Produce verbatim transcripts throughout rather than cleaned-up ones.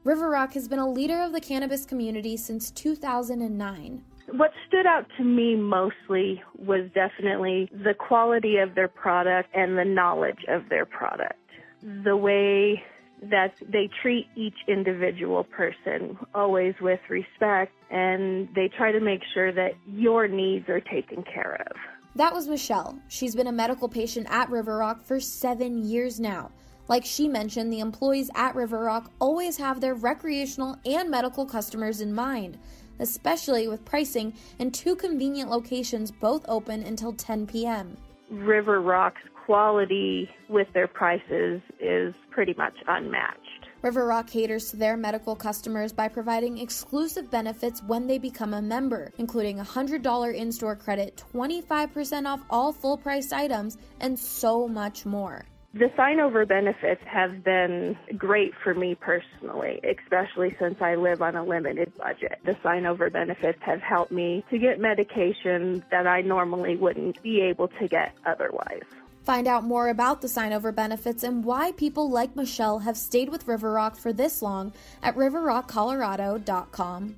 River Rock has been a leader of the cannabis community since two thousand nine. What stood out to me mostly was definitely the quality of their product and the knowledge of their product. The way that they treat each individual person, always with respect, and they try to make sure that your needs are taken care of. That was Michelle. She's been a medical patient at River Rock for seven years now. Like she mentioned, the employees at River Rock always have their recreational and medical customers in mind, especially with pricing and two convenient locations both open until ten p.m. River Rock's quality with their prices is pretty much unmatched. River Rock caters to their medical customers by providing exclusive benefits when they become a member, including a one hundred dollars in-store credit, twenty-five percent off all full-price items, and so much more. The sign-over benefits have been great for me personally, especially since I live on a limited budget. The sign-over benefits have helped me to get medication that I normally wouldn't be able to get otherwise. Find out more about the sign-over benefits and why people like Michelle have stayed with River Rock for this long at river rock colorado dot com.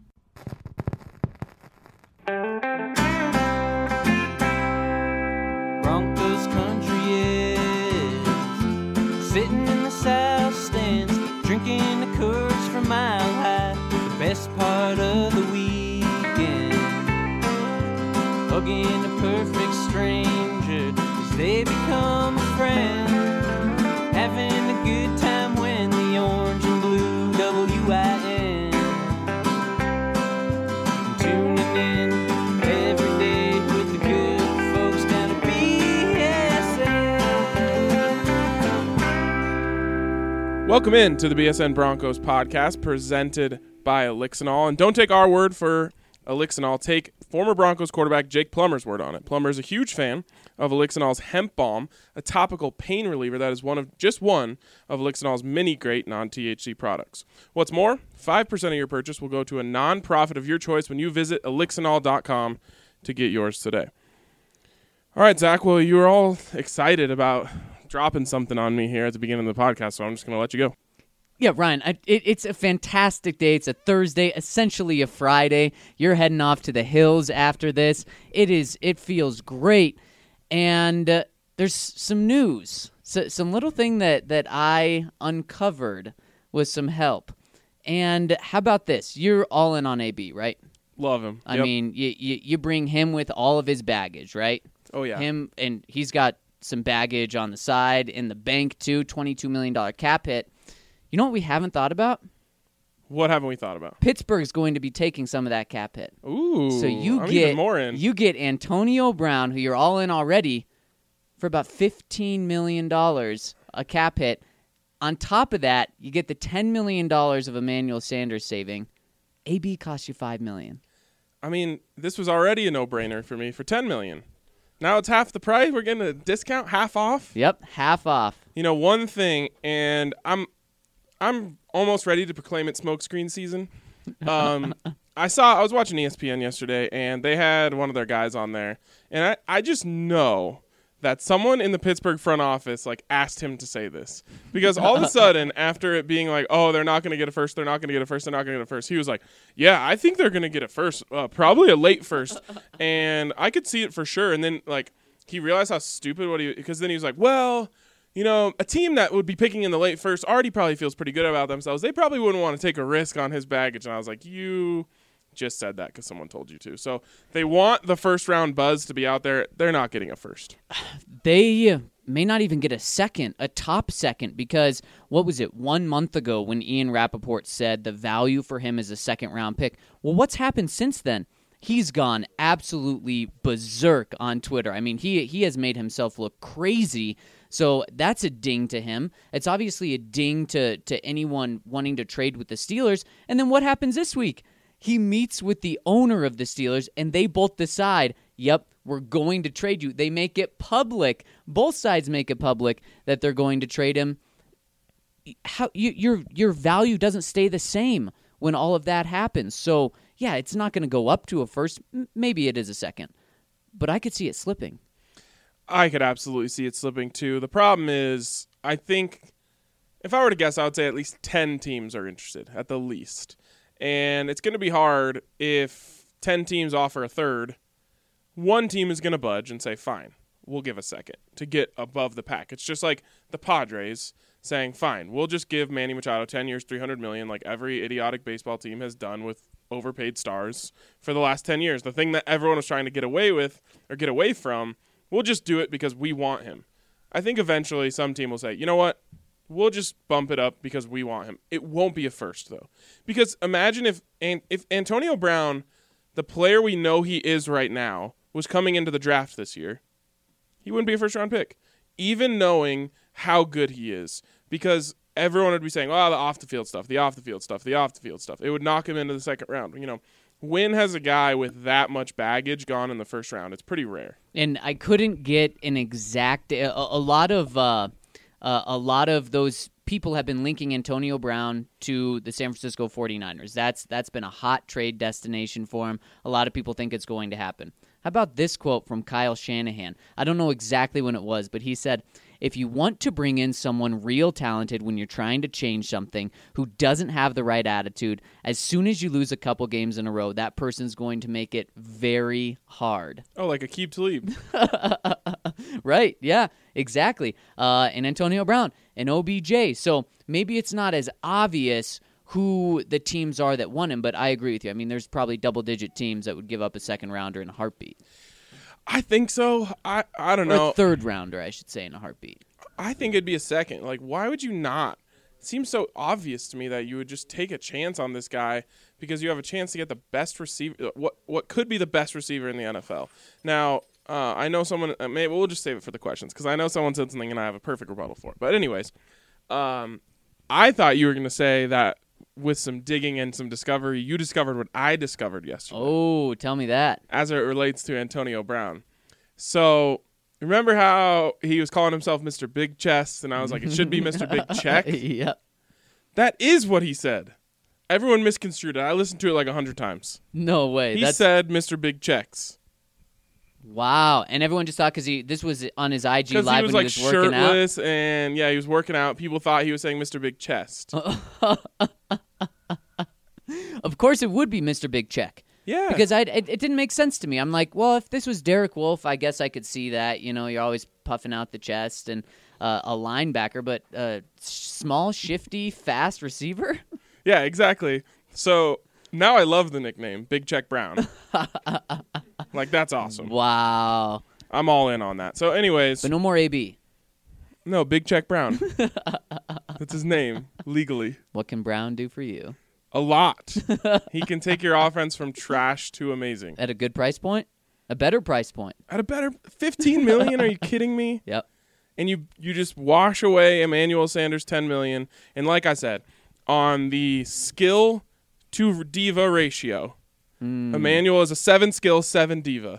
Broncos country is sitting in the south stands, drinking the Coors from Mile High, the best part of the weekend, hugging a perfect stranger as they become a friend, having a good time when the orange and blue W I N, tuning in every day with the good folks down at B S N. Welcome in to the B S N Broncos podcast presented by Elixinol. And don't take our word for Elixinol. Take former Broncos quarterback Jake Plummer's word on it. Plummer is a huge fan of Elixinol's Hemp Balm, a topical pain reliever that is one of just one of Elixinol's many great non-T H C products. What's more, five percent of your purchase will go to a non-profit of your choice when you visit elixinol dot com to get yours today. All right, Zach, well, you were all excited about dropping something on me here at the beginning of the podcast, so I'm just going to let you go. Yeah, Ryan, I, it, it's a fantastic day. It's a Thursday, essentially a Friday. You're heading off to the hills after this. It is. It feels great. And uh, there's some news, so, some little thing that, that I uncovered with some help. And how about this? You're all in on A B, right? Love him. I Yep. mean, you, you you bring him with all of his baggage, right? Oh, yeah. Him, and he's got some baggage on the side, in the bank too, twenty-two million dollars cap hit. You know what we haven't thought about? What haven't we thought about? Pittsburgh's going to be taking some of that cap hit. Ooh, so you I'm get even more in. You get Antonio Brown, who you're all in already, for about fifteen million dollars a cap hit. On top of that, you get the ten million dollars of Emmanuel Sanders saving. A B costs you five million dollars. I mean, this was already a no-brainer for me for ten million dollars. Now it's half the price. We're getting a discount, half off. Yep, half off. You know, one thing, and I'm I'm almost ready to proclaim it smokescreen season. Um, I saw I was watching E S P N yesterday, and they had one of their guys on there, and I, I just know that someone in the Pittsburgh front office like asked him to say this, because all of a sudden, after it being like, oh, they're not going to get a first, they're not going to get a first, they're not going to get a first, he was like, yeah, I think they're going to get a first, uh, probably a late first, and I could see it for sure. And then like he realized how stupid what he, because then he was like, well, you know, a team that would be picking in the late first already probably feels pretty good about themselves. They probably wouldn't want to take a risk on his baggage. And I was like, you just said that because someone told you to. So they want the first round buzz to be out there. They're not getting a first. They may not even get a second, a top second, because what was it, one month ago when Ian Rappaport said the value for him is a second round pick? Well, what's happened since then? He's gone absolutely berserk on Twitter. I mean, he he has made himself look crazy. So that's a ding to him. It's obviously a ding to, to anyone wanting to trade with the Steelers. And then what happens this week? He meets with the owner of the Steelers, and they both decide, yep, we're going to trade you. They make it public. Both sides make it public that they're going to trade him. How you, your your value doesn't stay the same when all of that happens. So, yeah, it's not going to go up to a first. Maybe it is a second. But I could see it slipping. I could absolutely see it slipping too. The problem is, I think, if I were to guess, I would say at least ten teams are interested, at the least. And it's going to be hard if ten teams offer a third. One team is going to budge and say, fine, we'll give a second to get above the pack. It's just like the Padres saying, fine, we'll just give Manny Machado ten years, three hundred million dollars, like every idiotic baseball team has done with overpaid stars for the last ten years. The thing that everyone was trying to get away with or get away from, we'll just do it because we want him. I think eventually some team will say, you know what, we'll just bump it up because we want him. It won't be a first, though. Because imagine if if Antonio Brown, the player we know he is right now, was coming into the draft this year, he wouldn't be a first-round pick, even knowing how good he is. Because everyone would be saying, oh, the off-the-field stuff, the off-the-field stuff, the off-the-field stuff. It would knock him into the second round. You know, when has a guy with that much baggage gone in the first round? It's pretty rare. And I couldn't get an exact a, a lot of uh, uh, a lot of those people have been linking Antonio Brown to the San Francisco forty-niners. That's that's been a hot trade destination for him. A lot of people think it's going to happen. How about this quote from Kyle Shanahan? I don't know exactly when it was, but he said, if you want to bring in someone real talented when you're trying to change something who doesn't have the right attitude, as soon as you lose a couple games in a row, that person's going to make it very hard. Oh, like Aqib Talib. Right, yeah, exactly. Uh, and Antonio Brown and O B J. So maybe it's not as obvious who the teams are that won him, but I agree with you. I mean, there's probably double-digit teams that would give up a second-rounder in a heartbeat. I think so. I, I don't Or know. a third-rounder, I should say, in a heartbeat. I think it'd be a second. Like, why would you not? It seems so obvious to me that you would just take a chance on this guy because you have a chance to get the best receiver, what what could be the best receiver in the N F L. Now, uh, I know someone, uh, maybe we'll just save it for the questions because I know someone said something and I have a perfect rebuttal for it. But anyways, um, I thought you were going to say that with some digging and some discovery, you discovered what I discovered yesterday. Oh, tell me that. As it relates to Antonio Brown. So, remember how he was calling himself Mister Big Chest, and I was like, it should be Mister Big Check? Yep. That is what he said. Everyone misconstrued it. I listened to it like a hundred times. No way. He That's... said Mister Big Checks. Wow. And everyone just thought because he this was on his I G Because Live he was when like he was working out. shirtless, and yeah, he was working out. People thought he was saying Mister Big Chest. Of course it would be Mister Big Check. Yeah. Because I, it, it didn't make sense to me. I'm like, well, if this was Derek Wolfe, I guess I could see that. You know, you're always puffing out the chest and uh, a linebacker, but a small, shifty, fast receiver? Yeah, exactly. So now I love the nickname, Big Check Brown. Like, that's awesome. Wow. I'm all in on that. So anyways. But no more A B. No, Big Check Brown. That's his name, legally. What can Brown do for you? A lot. He can take your offense from trash to amazing. At a good price point? A better price point. At a better fifteen million dollars? Are you kidding me? Yep. And you you just wash away Emmanuel Sanders ten million dollars. And like I said, on the skill to diva ratio, mm. Emmanuel is a seven skill, seven diva.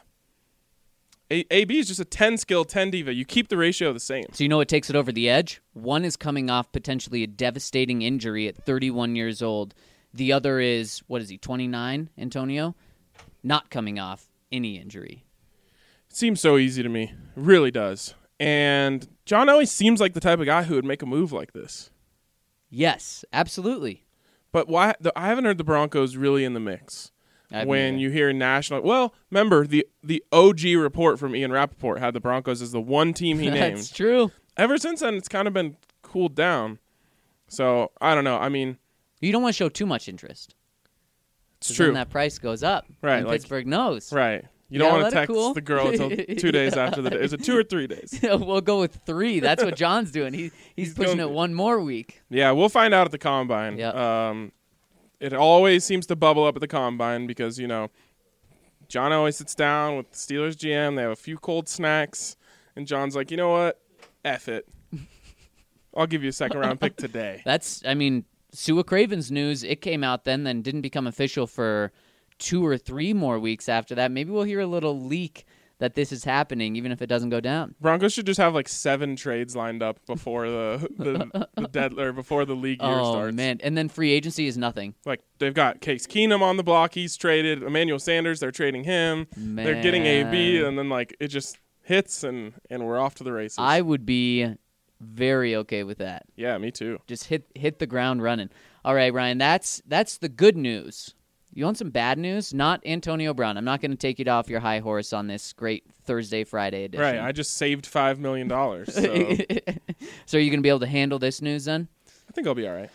A- AB is just a ten skill, ten diva. You keep the ratio the same. So you know what takes it over the edge? One is coming off potentially a devastating injury at thirty-one years old. The other is, what is he, twenty-nine, Antonio? Not coming off any injury. It seems so easy to me. It really does. And John Elway seems like the type of guy who would make a move like this. Yes, absolutely. But why? The, I haven't heard the Broncos really in the mix. When either. you hear national, well, remember the the O G report from Ian Rappaport had the Broncos as the one team he named. That's true. Ever since then, it's kind of been cooled down. So I don't know. I mean, You don't want to show too much interest. it's 'Cause true, Then that price goes up. Right, And like- Pittsburgh knows. right? You Yeah, don't want let to it text cool. the girl until two days after the day. Is it two or three days? We'll go with three. That's what John's doing. He, he's, He's pushing going- it one more week. Yeah, we'll find out at the combine. Yep. Um, it always seems to bubble up at the combine because, you know, John always sits down with the Steelers G M. They have a few cold snacks. And John's like, you know what? F it. I'll give you a second round pick today. That's, I mean, Sua Craven's news, it came out then, then didn't become official for two or three more weeks after that. Maybe we'll hear a little leak that this is happening, even if it doesn't go down. Broncos should just have like seven trades lined up before the the, the dead or before the league year Oh, starts. man. And then free agency is nothing. Like they've got Case Keenum on the block, he's traded. Emmanuel Sanders, they're trading him. Man. They're getting A B, and then like it just hits and and we're off to the races. I would be Very okay with that. Yeah, me too. Just hit hit the ground running. All right, Ryan, that's that's the good news. You want some bad news? Not Antonio Brown. I'm not going to take you off your high horse on this great Thursday, Friday edition. Right, I just saved five million dollars. So So are you going to be able to handle this news then? I think I'll be all right.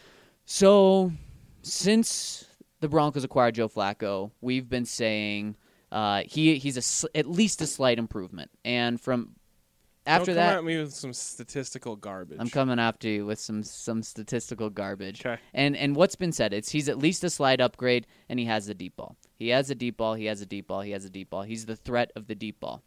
So since the Broncos acquired Joe Flacco, we've been saying uh, he he's a, sl- at least a slight improvement. And from after Don't that, come at me with some statistical garbage. I'm coming after you with some some statistical garbage. Okay. And and what's been said, it's he's at least a slight upgrade, and he has the deep ball. He has a deep ball. He has a deep ball. He has a deep ball. He's the threat of the deep ball.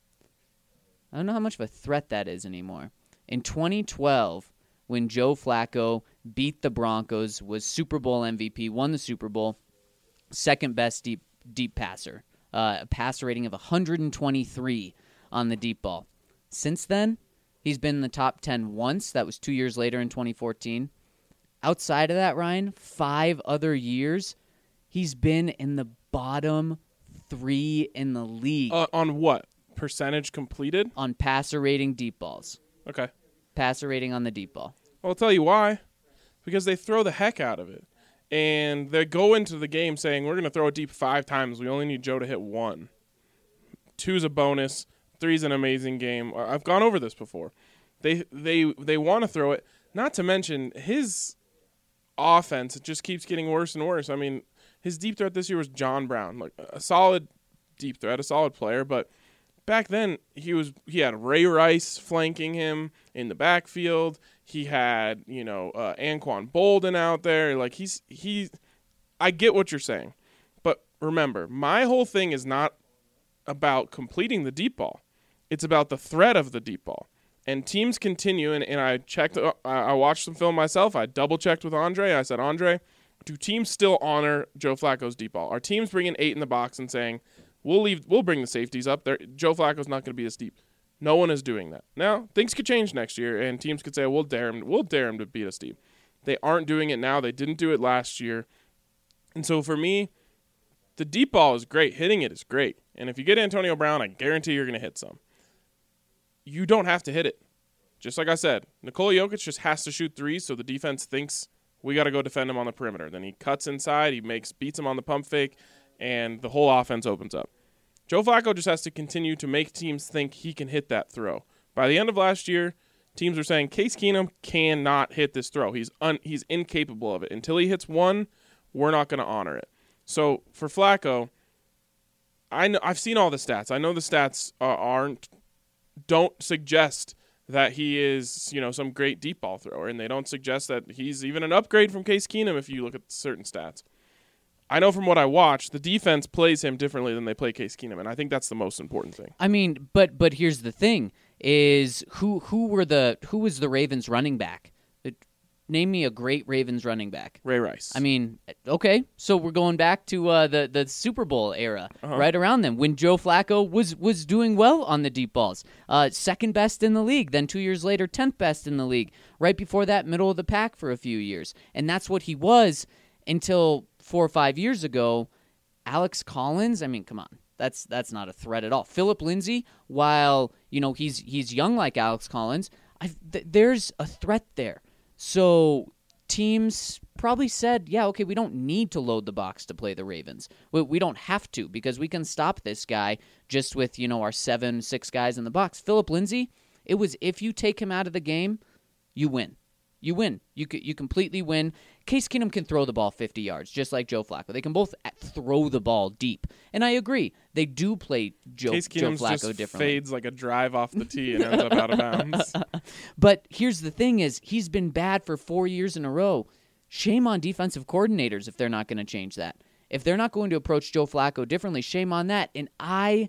I don't know how much of a threat that is anymore. In twenty twelve, when Joe Flacco beat the Broncos, was Super Bowl M V P, won the Super Bowl, second best deep deep passer, uh, a passer rating of one hundred twenty-three on the deep ball. Since then, he's been in the top ten once. That was two years later in twenty fourteen. Outside of that, Ryan, five other years, he's been in the bottom three in the league Uh, on what? Percentage completed? on passer rating deep balls. Okay. Passer rating on the deep ball. Well, I'll tell you why. Because they throw the heck out of it. And they go into the game saying, we're going to throw it deep five times. We only need Joe to hit one. Two's a bonus. Three's an amazing game. I've gone over this before. They they they want to throw it. Not to mention his offense. It just keeps getting worse and worse. I mean, his deep threat this year was John Brown, like a solid deep threat, a solid player. But back then he was he had Ray Rice flanking him in the backfield. He had you know uh, Anquan Bolden out there. Like he's he. I get what you're saying, but remember, my whole thing is not about completing the deep ball. It's about the threat of the deep ball. And teams continue, and, and I checked, uh, I watched some film myself. I double-checked with Andre. I said, Andre, do teams still honor Joe Flacco's deep ball? Are teams bringing eight in the box and saying, we'll leave, we'll bring the safeties up there. Joe Flacco's not going to be this deep. No one is doing that. Now, things could change next year, and teams could say, we'll dare him, we'll dare him to beat us deep. They aren't doing it now. They didn't do it last year. And so for me, the deep ball is great. Hitting it is great. And if you get Antonio Brown, I guarantee you're going to hit some. You don't have to hit it. Just like I said, Nikola Jokic just has to shoot threes so the defense thinks we got to go defend him on the perimeter. Then he cuts inside, he makes beats him on the pump fake, and the whole offense opens up. Joe Flacco just has to continue to make teams think he can hit that throw. By the end of last year, teams were saying Case Keenum cannot hit this throw. He's un- he's incapable of it. Until he hits one, we're not going to honor it. So for Flacco, I know I've seen all the stats. I know the stats are, aren't don't suggest that he is, you know, some great deep ball thrower, and they don't suggest that he's even an upgrade from Case Keenum if you look at certain stats. I know from what I watch, the defense plays him differently than they play Case Keenum, and I think that's the most important thing. I mean, but but here's the thing: is who who were the who was the Ravens running back? It, name me a great Ravens running back. Ray Rice. I mean, okay, so we're going back to uh, the the Super Bowl era, Uh-huh. right around then, when Joe Flacco was was doing well on the deep balls, uh, second best in the league. Then two years later, tenth best in the league. Right before that, middle of the pack for a few years, and that's what he was until four or five years ago. Alex Collins. I mean, come on. That's that's not a threat at all. Philip Lindsay, while you know he's he's young like Alex Collins, I, th- there's a threat there. So teams probably said, yeah, okay, we don't need to load the box to play the Ravens. We, we don't have to because we can stop this guy just with, you know, our seven, six guys in the box. Philip Lindsay, it was if you take him out of the game, you win. You win. You you completely win. Case Keenum can throw the ball fifty yards, just like Joe Flacco. They can both throw the ball deep. And I agree. They do play Joe, Case Joe Keenum's Flacco just differently. fades like a drive off the tee and ends up out of bounds. But here's the thing is, he's been bad for four years in a row. Shame on defensive coordinators if they're not going to change that. If they're not going to approach Joe Flacco differently, shame on that. And I,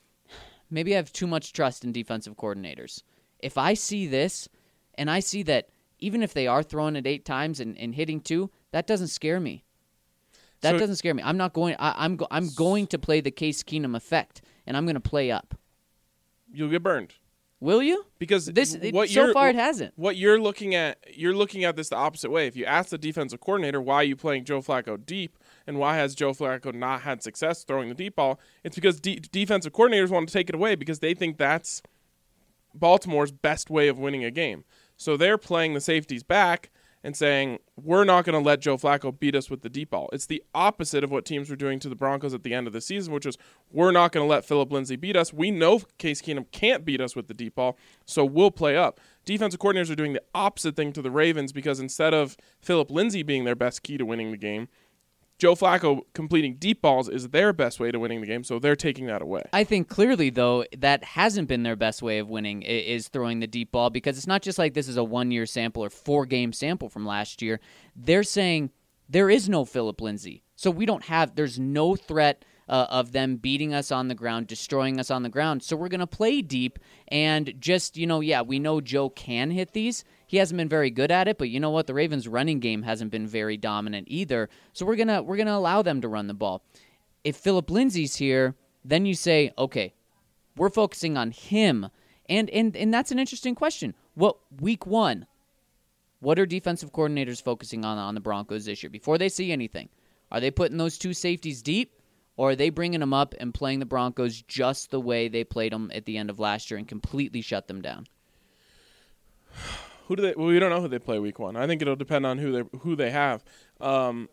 maybe I have too much trust in defensive coordinators. If I see this, and I see that even if they are throwing it eight times and, and hitting two, that doesn't scare me. That So- doesn't scare me. I'm not going. I, I'm go, I'm going to play the Case Keenum effect, and I'm going to play up. You'll get burned. Will you? Because This it, what so you're, far it hasn't. What you're looking at, you're looking at this the opposite way. If you ask the defensive coordinator why are you playing Joe Flacco deep and why has Joe Flacco not had success throwing the deep ball, it's because de- defensive coordinators want to take it away because they think that's Baltimore's best way of winning a game. So they're playing the safeties back and saying, we're not going to let Joe Flacco beat us with the deep ball. It's the opposite of what teams were doing to the Broncos at the end of the season, which is, we're not going to let Phillip Lindsay beat us. We know Case Keenum can't beat us with the deep ball, so we'll play up. Defensive coordinators are doing the opposite thing to the Ravens because instead of Phillip Lindsay being their best key to winning the game, Joe Flacco completing deep balls is their best way to winning the game, so they're taking that away. I think clearly, though, that hasn't been their best way of winning i- is throwing the deep ball, because it's not just like this is a one-year sample or four-game sample from last year. They're saying there is no Phillip Lindsay, so we don't have – there's no threat uh, of them beating us on the ground, destroying us on the ground, so we're going to play deep and just, you know, yeah, we know Joe can hit these. He hasn't been very good at it, but you know what? The Ravens' running game hasn't been very dominant either. So we're gonna we're gonna allow them to run the ball. If Phillip Lindsay's here, then you say, okay, we're focusing on him, and and and that's an interesting question. What week one? What are defensive coordinators focusing on on the Broncos this year before they see anything? Are they putting those two safeties deep, or are they bringing them up and playing the Broncos just the way they played them at the end of last year and completely shut them down? Who do they? Well, we don't know who they play week one. I think it'll depend on who they who they have. Um,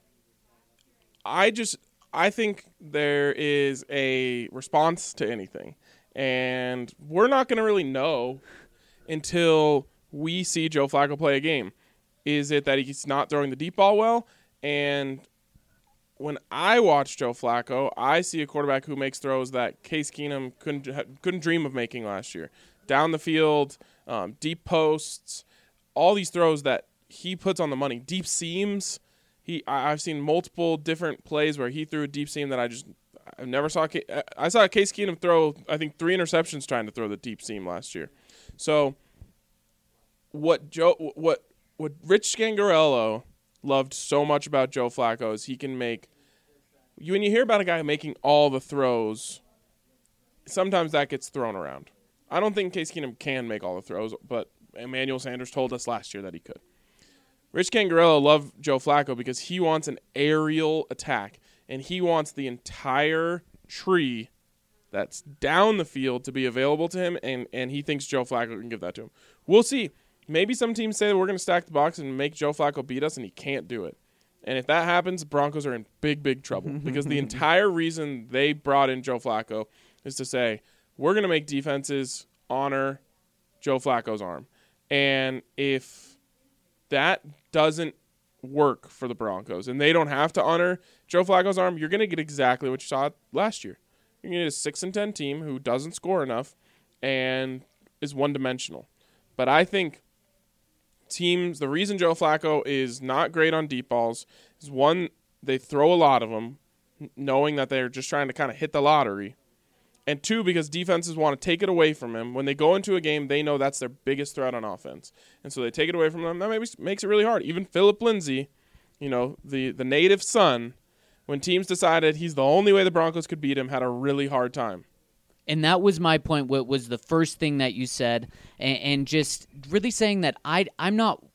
I just I think there is a response to anything, and we're not going to really know until we see Joe Flacco play a game. Is it that he's not throwing the deep ball well? And when I watch Joe Flacco, I see a quarterback who makes throws that Case Keenum couldn't couldn't dream of making last year. Down the field, um, deep posts, all these throws that he puts on the money. Deep seams. He, I, I've seen multiple different plays where he threw a deep seam that I just I never saw. I saw Case Keenum throw, I think, three interceptions trying to throw the deep seam last year. So what Joe, what what Rich Scangarello loved so much about Joe Flacco is he can make. You when you hear about a guy making all the throws, sometimes that gets thrown around. I don't think Case Keenum can make all the throws, but Emmanuel Sanders told us last year that he could. Rich Scangarello loved Joe Flacco because he wants an aerial attack, and he wants the entire tree that's down the field to be available to him, and, and he thinks Joe Flacco can give that to him. We'll see. Maybe some teams say that we're going to stack the box and make Joe Flacco beat us, and he can't do it. And if that happens, the Broncos are in big, big trouble because the entire reason they brought in Joe Flacco is to say, we're going to make defenses honor Joe Flacco's arm. And if that doesn't work for the Broncos and they don't have to honor Joe Flacco's arm, you're going to get exactly what you saw last year. You're going to get a six and ten team who doesn't score enough and is one-dimensional. But I think teams, the reason Joe Flacco is not great on deep balls is, one, they throw a lot of them, knowing that they're just trying to kind of hit the lottery. And two, because defenses want to take it away from him. When they go into a game, they know that's their biggest threat on offense. And so they take it away from them. That maybe makes it really hard. Even Phillip Lindsay, you know, the, the native son, when teams decided he's the only way the Broncos could beat him, had a really hard time. And that was my point, what was the first thing that you said, and, and just really saying that I, I'm not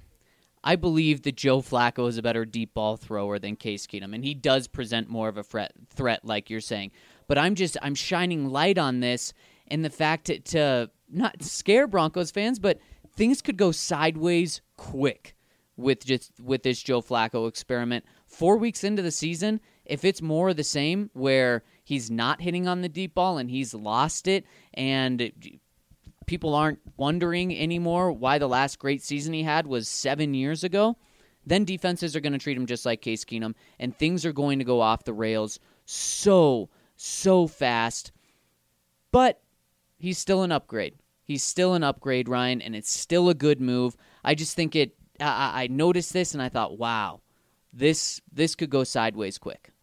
– I believe that Joe Flacco is a better deep ball thrower than Case Keenum, and he does present more of a threat, threat like you're saying. But I'm just I'm shining light on this and the fact to, to not scare Broncos fans, but things could go sideways quick with just with this Joe Flacco experiment. Four weeks into the season, if it's more of the same where he's not hitting on the deep ball and he's lost it and people aren't wondering anymore why the last great season he had was seven years ago, then defenses are going to treat him just like Case Keenum, and things are going to go off the rails so so fast. But he's still an upgrade. He's still an upgrade, Ryan, and it's still a good move. I just think it I, I noticed this and I thought, wow, this this could go sideways quick.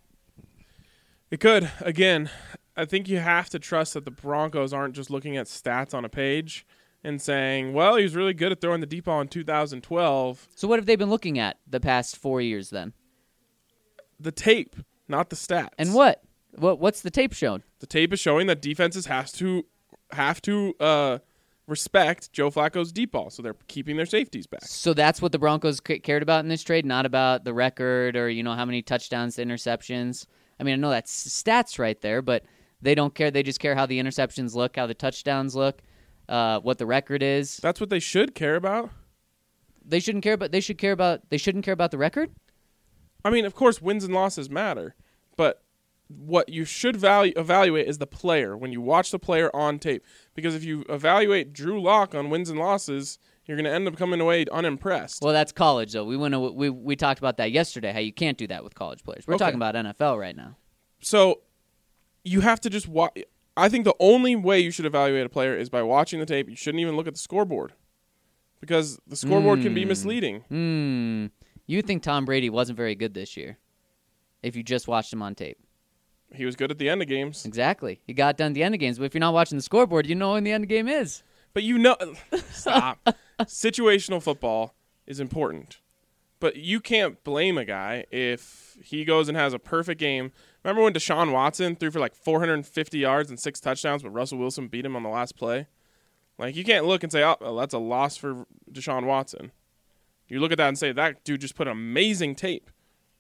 It could. Again, I think you have to trust that the Broncos aren't just looking at stats on a page and saying, well, he was really good at throwing the deep ball in two thousand twelve. So what have they been looking at the past four years then? The tape, not the stats. And what? What what's the tape showing? The tape is showing that defenses has to have to uh, respect Joe Flacco's deep ball, so they're keeping their safeties back. So that's what the Broncos c- cared about in this trade, not about the record or you know how many touchdowns to interceptions. I mean, I know that's stats right there, but they don't care. They just care how the interceptions look, how the touchdowns look. uh, what the record is. That's what they should care about. They shouldn't care about. They should care about. They shouldn't care about the record. I mean, of course, wins and losses matter, but what you should value, evaluate is the player when you watch the player on tape. Because if you evaluate Drew Lock on wins and losses, you're going to end up coming away unimpressed. Well, that's college, though. We went to, we we talked about that yesterday. How you can't do that with college players. We're Okay. talking about N F L right now. So you have to just watch. I think the only way you should evaluate a player is by watching the tape. You shouldn't even look at the scoreboard because the scoreboard mm. can be misleading. Hmm. You think Tom Brady wasn't very good this year if you just watched him on tape? He was good at the end of games. Exactly. He got done at the end of games. But if you're not watching the scoreboard, you know when the end of the game is. But you know, stop. Situational football is important. But you can't blame a guy if he goes and has a perfect game. Remember when Deshaun Watson threw for like four hundred fifty yards and six touchdowns, but Russell Wilson beat him on the last play? Like, you can't look and say, oh, well, that's a loss for Deshaun Watson. You look at that and say, that dude just put amazing tape.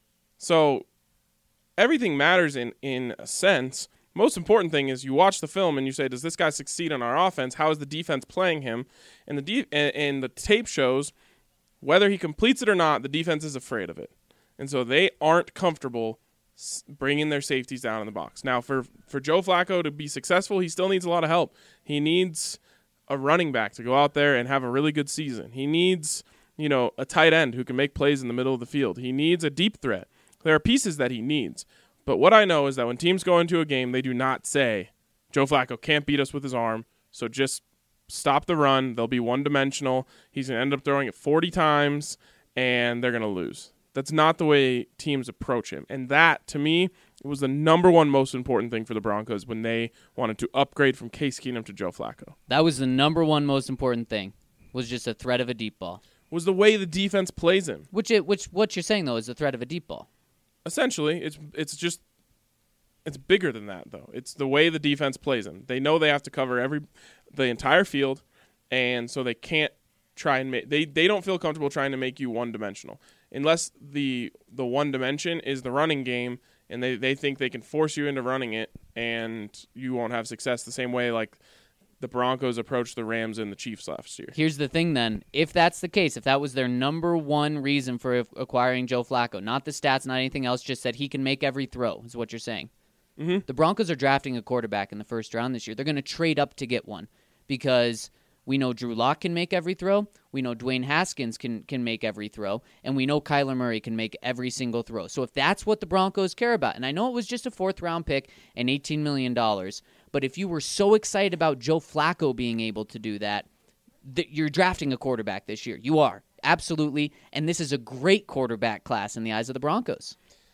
So everything matters in, in a sense. Most important thing is you watch the film and you say, does this guy succeed on our offense? How is the defense playing him? And the de- and, and the tape shows whether he completes it or not, the defense is afraid of it. And so they aren't comfortable bringing their safeties down in the box. Now, for, for Joe Flacco to be successful, he still needs a lot of help. He needs a running back to go out there and have a really good season. He needs, you know, a tight end who can make plays in the middle of the field. He needs a deep threat. There are pieces that he needs. But what I know is that when teams go into a game, they do not say, Joe Flacco can't beat us with his arm, so just stop the run. They'll be one-dimensional. He's going to end up throwing it forty times, and they're going to lose. That's not the way teams approach him. And that, to me, was the number one most important thing for the Broncos when they wanted to upgrade from Case Keenum to Joe Flacco. That was the number one most important thing, was just a threat of a deep ball. Was the way the defense plays him. Which, it, which what you're saying, though, is the threat of a deep ball. Essentially, it's it's just it's bigger than that, though. It's the way the defense plays him. They know they have to cover every the entire field, and so they can't try and make they, they don't feel comfortable trying to make you one dimensional unless the the one dimension is the running game, and they, they think they can force you into running it, and you won't have success the same way like the Broncos approached the Rams and the Chiefs last year. Here's the thing then. If that's the case, if that was their number one reason for acquiring Joe Flacco, not the stats, not anything else, just that he can make every throw, is what you're saying. Mm-hmm. The Broncos are drafting a quarterback in the first round this year. They're going to trade up to get one because we know Drew Lock can make every throw, we know Dwayne Haskins can, can make every throw, and we know Kyler Murray can make every single throw. So if that's what the Broncos care about, and I know it was just a fourth-round pick and eighteen million dollars, but if you were so excited about Joe Flacco being able to do that, that you're drafting a quarterback this year. You are. Absolutely. And this is a great quarterback class in the eyes of the Broncos.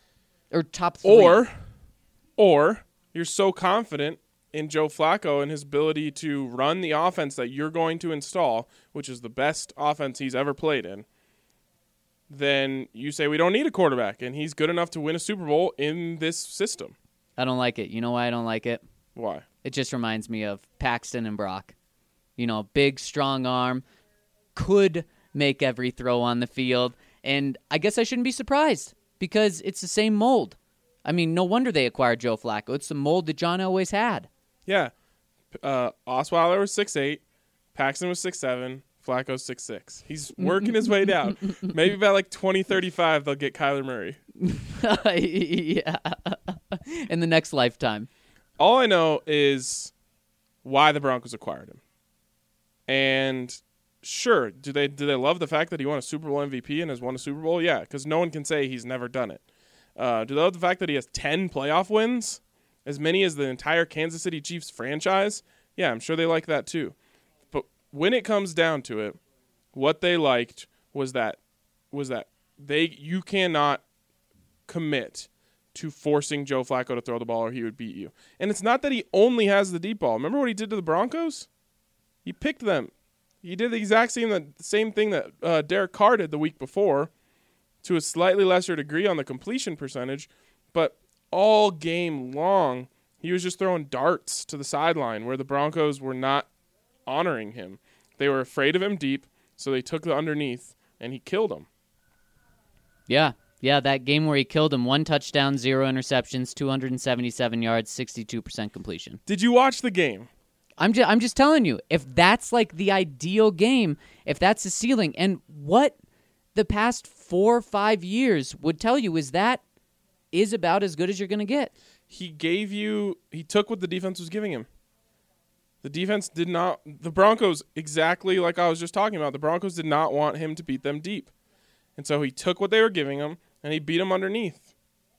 Or top three. Or, or you're so confident in Joe Flacco and his ability to run the offense that you're going to install, which is the best offense he's ever played in, then you say we don't need a quarterback, and he's good enough to win a Super Bowl in this system. I don't like it. You know why I don't like it? Why? It just reminds me of Paxton and Brock. You know, big, strong arm, could make every throw on the field. And I guess I shouldn't be surprised because it's the same mold. I mean, no wonder they acquired Joe Flacco. It's the mold that John always had. Yeah. Uh, Osweiler was six eight, Paxton was six seven, Flacco's six six. He's working his way down. Maybe by like twenty thirty-five, they'll get Kyler Murray. Yeah. In the next lifetime. All I know is why the Broncos acquired him. And sure, do they do they love the fact that he won a Super Bowl M V P and has won a Super Bowl? Yeah, because no one can say he's never done it. Uh, do they love the fact that he has ten playoff wins? As many as the entire Kansas City Chiefs franchise? Yeah, I'm sure they like that too. But when it comes down to it, what they liked was that was that they you cannot commit to forcing Joe Flacco to throw the ball or he would beat you. And it's not that he only has the deep ball. Remember what he did to the Broncos? He picked them. He did the exact same the same thing that uh, Derek Carr did the week before, to a slightly lesser degree on the completion percentage, but all game long he was just throwing darts to the sideline where the Broncos were not honoring him. They were afraid of him deep, so they took the underneath, and he killed them. Yeah. Yeah, that game where he killed him, one touchdown, zero interceptions, two hundred seventy-seven yards, sixty-two percent completion. Did you watch the game? I'm just I'm just telling you, if that's like the ideal game, if that's the ceiling, and what the past four or five years would tell you is that is about as good as you're going to get. He gave you, he took what the defense was giving him. The defense did not, the Broncos, exactly like I was just talking about, the Broncos did not want him to beat them deep. And so he took what they were giving him, and he beat them underneath.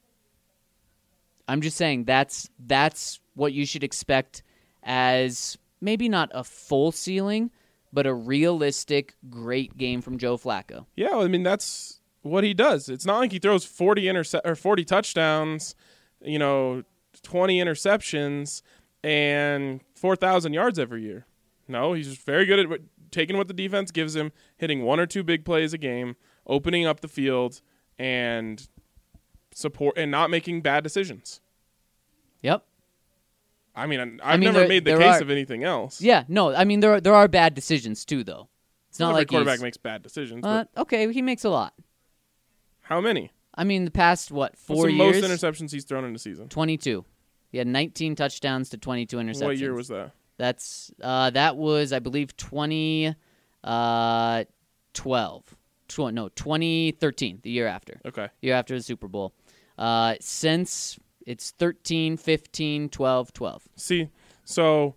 I'm just saying that's that's what you should expect as maybe not a full ceiling, but a realistic, great game from Joe Flacco. Yeah, I mean, that's what he does. It's not like he throws forty interce- or forty touchdowns, you know, twenty interceptions, and four thousand yards every year. No, he's just very good at what, taking what the defense gives him, hitting one or two big plays a game, opening up the field, and support and not making bad decisions. Yep. I mean, I've I mean, never there- made the there case are- of anything else. Yeah, no, I mean there are, there are bad decisions too, though. It's not Every like quarterback he's, makes bad decisions. uh, but okay, he makes a lot. how many? I mean, the past what What's four the years? most interceptions he's thrown in a season? twenty-two. He had nineteen touchdowns to twenty-two interceptions. What year was that? That's uh, that was I believe twenty uh, twelve. Tw- no, twenty thirteen, the year after. Okay. Year after the Super Bowl. Uh, since it's thirteen, fifteen, twelve, twelve. See, so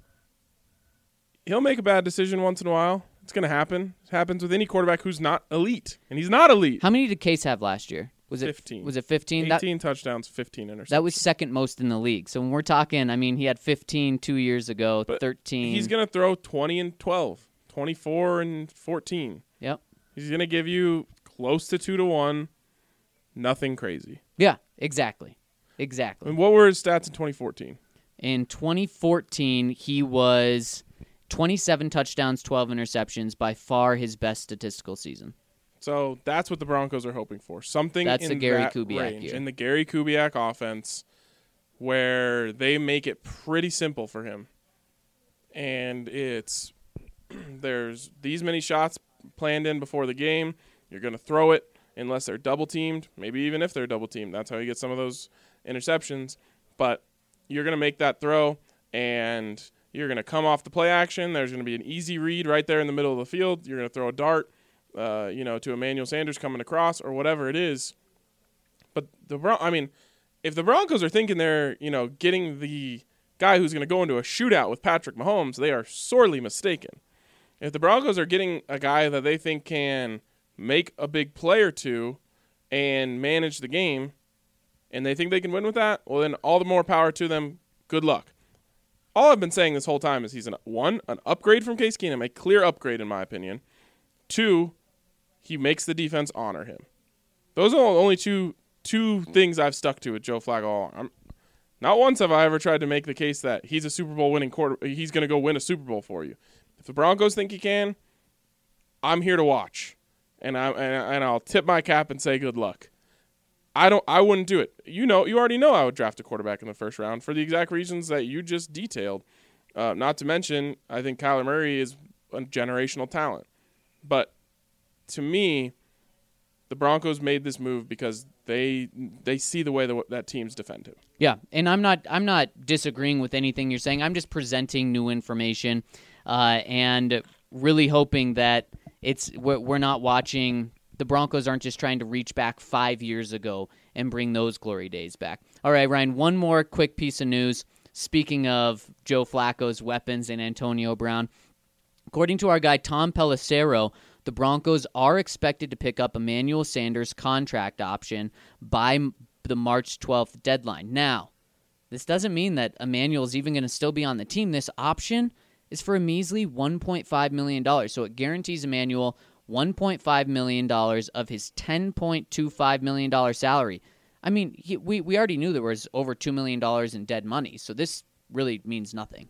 he'll make a bad decision once in a while. It's going to happen. It happens with any quarterback who's not elite, and he's not elite. How many did Case have last year? Was it fifteen. Was it fifteen? That, eighteen touchdowns, fifteen interceptions. that was second most in the league. So when we're talking, I mean, he had fifteen two years ago, But thirteen. He's going to throw twenty and twelve, twenty-four and fourteen. Yep. He's going to give you close to two to one. Nothing crazy. Yeah, exactly. I Exactly. mean, what were his stats in twenty fourteen? In twenty fourteen, he was twenty-seven touchdowns, twelve interceptions, by far his best statistical season. So that's what the Broncos are hoping for. Something That's in the Gary that Kubiak range, year. in the Gary Kubiak offense, where they make it pretty simple for him. And it's there's these many shots planned in before the game. You're going to throw it unless they're double teamed, maybe even if they're double teamed. That's how you get some of those interceptions. But you're going to make that throw, and you're going to come off the play action. There's going to be an easy read right there in the middle of the field. You're going to throw a dart, uh, you know, to Emmanuel Sanders coming across or whatever it is. But the Bron- I mean, if the Broncos are thinking they're, you know, getting the guy who's going to go into a shootout with Patrick Mahomes, they are sorely mistaken. If the Broncos are getting a guy that they think can make a big play or two and manage the game, and they think they can win with that, well, then all the more power to them. Good luck. All I've been saying this whole time is he's, an one, an upgrade from Case Keenum, a clear upgrade in my opinion. Two, he makes the defense honor him. Those are the only two two things I've stuck to with Joe Flacco all along. I'm, not once have I ever tried to make the case that he's a Super Bowl winning quarter. He's going to go win a Super Bowl for you. If the Broncos think he can, I'm here to watch, and I and, and I'll tip my cap and say good luck. I don't. I wouldn't do it. You know, you already know I would draft a quarterback in the first round for the exact reasons that you just detailed. Uh, not to mention, I think Kyler Murray is a generational talent. But to me, the Broncos made this move because they they see the way that that teams defend him. Yeah, and I'm not I'm not disagreeing with anything you're saying. I'm just presenting new information, uh, and really hoping that it's we're, we're not watching. The Broncos aren't just trying to reach back five years ago and bring those glory days back. All right, Ryan, one more quick piece of news. Speaking of Joe Flacco's weapons and Antonio Brown, according to our guy Tom Pelissero, the Broncos are expected to pick up Emmanuel Sanders' contract option by the March twelfth deadline. Now, this doesn't mean that Emmanuel is even going to still be on the team. This option is for a measly one point five million dollars, so it guarantees Emmanuel one point five million dollars of his ten point two five million dollars salary. I mean, he, we, we already knew there was over two million dollars in dead money, so this really means nothing.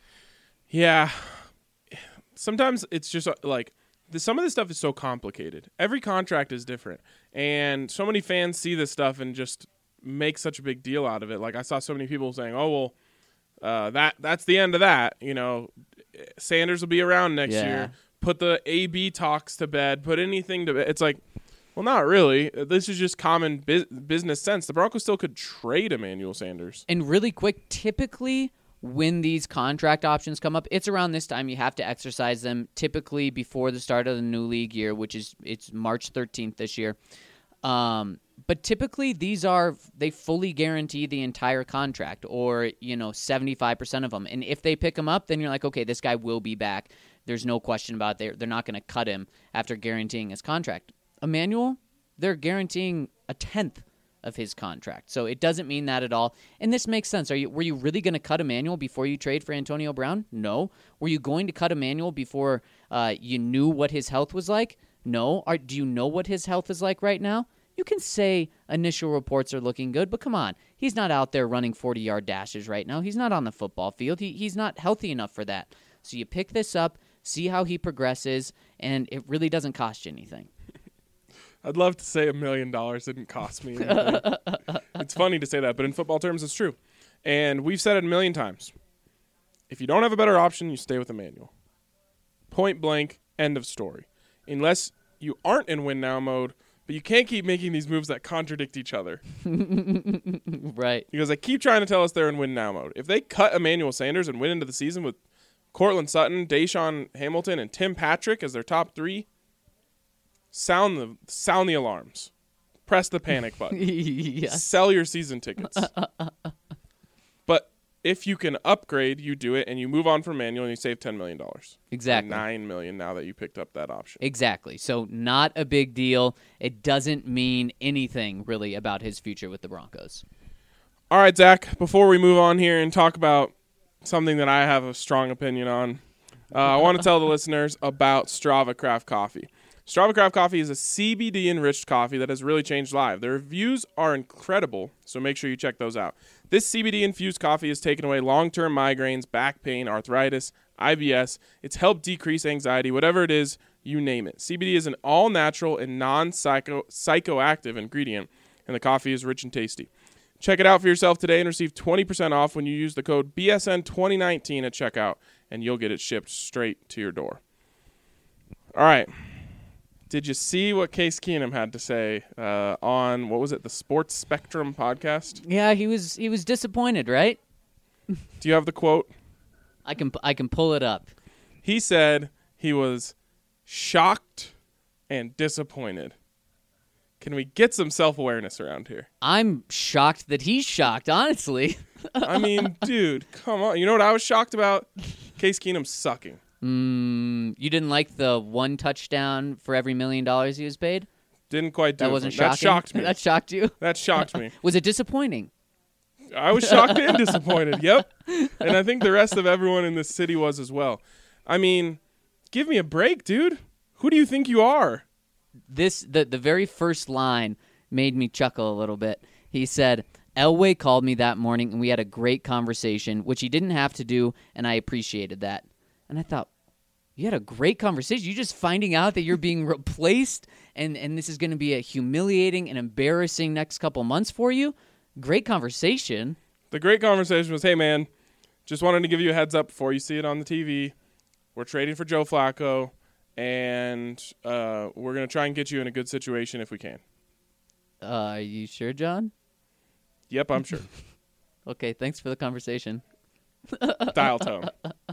Yeah. Sometimes it's just uh, like the, some of this stuff is so complicated. Every contract is different, and so many fans see this stuff and just make such a big deal out of it. Like I saw so many people saying, "Oh well, uh, that that's the end of that." You know, Sanders will be around next Yeah. year. Put the A B talks to bed. Put anything to bed. It's like, well, not really. This is just common bu- business sense. The Broncos still could trade Emmanuel Sanders. And really quick, typically when these contract options come up, it's around this time you have to exercise them, typically before the start of the new league year, which is it's March thirteenth this year. Um, but typically these are, they fully guarantee the entire contract, or, you know, seventy-five percent of them. And if they pick him up, then you're like, okay, this guy will be back. There's no question about it. They're, they're not going to cut him after guaranteeing his contract. Emmanuel, they're guaranteeing a tenth of his contract. So it doesn't mean that at all. And this makes sense. Are you were you really going to cut Emmanuel before you trade for Antonio Brown? No. Were you going to cut Emmanuel before uh, you knew what his health was like? No. Are, do you know what his health is like right now? You can say initial reports are looking good, but come on. He's not out there running forty-yard dashes right now. He's not on the football field. He, he's not healthy enough for that. So you pick this up, see how he progresses, and it really doesn't cost you anything. I'd love to say a million dollars didn't cost me anything. It's funny to say that, but in football terms, it's true. And we've said it a million times. If you don't have a better option, you stay with Emmanuel. Point blank, end of story. Unless you aren't in win now mode, but you can't keep making these moves that contradict each other. Right. Because they keep trying to tell us they're in win now mode. If they cut Emmanuel Sanders and win into the season with Cortland Sutton, Deshaun Hamilton, and Tim Patrick as their top three, sound the sound the alarms. Press the panic button. Yes. Sell your season tickets. But if you can upgrade, you do it, and you move on from Emmanuel, and you save ten million dollars. Exactly. Or nine million dollars now that you picked up that option. Exactly. So not a big deal. It doesn't mean anything, really, about his future with the Broncos. All right, Zach, before we move on here and talk about something that I have a strong opinion on, uh, I want to tell the listeners about Strava Craft Coffee. Strava Craft Coffee is a C B D-enriched coffee that has really changed lives. Their reviews are incredible, so make sure you check those out. This C B D-infused coffee has taken away long-term migraines, back pain, arthritis, I B S. It's helped decrease anxiety, whatever it is, you name it. C B D is an all-natural and non-psychoactive ingredient, and the coffee is rich and tasty. Check it out for yourself today and receive twenty percent off when you use the code B S N twenty nineteen at checkout, and you'll get it shipped straight to your door. All right. Did you see what Case Keenum had to say uh, on, what was it, the Sports Spectrum podcast? Yeah, he was he was disappointed, right? Do you have the quote? I can I can pull it up. He said he was shocked and disappointed. Can we get some self-awareness around here? I'm shocked that he's shocked, honestly. I mean, dude, come on. You know what I was shocked about? Case Keenum sucking. Mm, you didn't like the one touchdown for every million dollars he was paid? Didn't quite do that it. wasn't That shocking? shocked me. That shocked you? That shocked me. Was it disappointing? I was shocked and disappointed. Yep. And I think the rest of everyone in this city was as well. I mean, give me a break, dude. Who do you think you are? This the the very first line made me chuckle a little bit. He said, Elway called me that morning and we had a great conversation, which he didn't have to do, and I appreciated that. And I thought, you had a great conversation. You're just finding out that you're being replaced, and, and this is going to be a humiliating and embarrassing next couple months for you? Great conversation. The great conversation was, hey, man, just wanted to give you a heads up before you see it on the T V. We're trading for Joe Flacco, and uh, we're going to try and get you in a good situation if we can. Uh, are you sure, John? Yep, I'm sure. Okay, thanks for the conversation. Dial tone.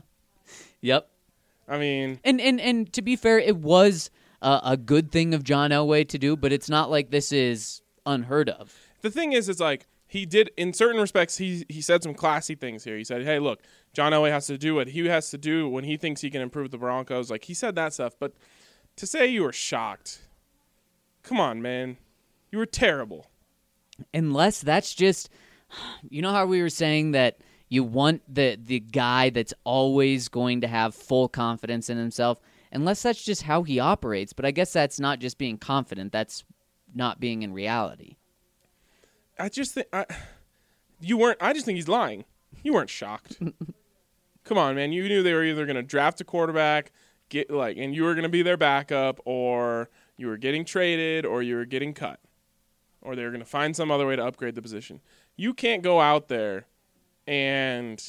Yep. I mean, and and and to be fair, it was uh, a good thing of John Elway to do, but it's not like this is unheard of. The thing is, it's like he did in certain respects. He he said some classy things here. He said, "Hey, look, John Elway has to do what he has to do when he thinks he can improve the Broncos." Like he said that stuff, but to say you were shocked, come on, man, you were terrible. Unless that's just, you know how we were saying that. You want the the guy that's always going to have full confidence in himself, unless that's just how he operates. But I guess that's not just being confident. That's not being in reality. I just think I, you weren't. I just think he's lying. You weren't shocked. Come on, man. You knew they were either going to draft a quarterback, get like, and you were going to be their backup, or you were getting traded, or you were getting cut, or they were going to find some other way to upgrade the position. You can't go out there and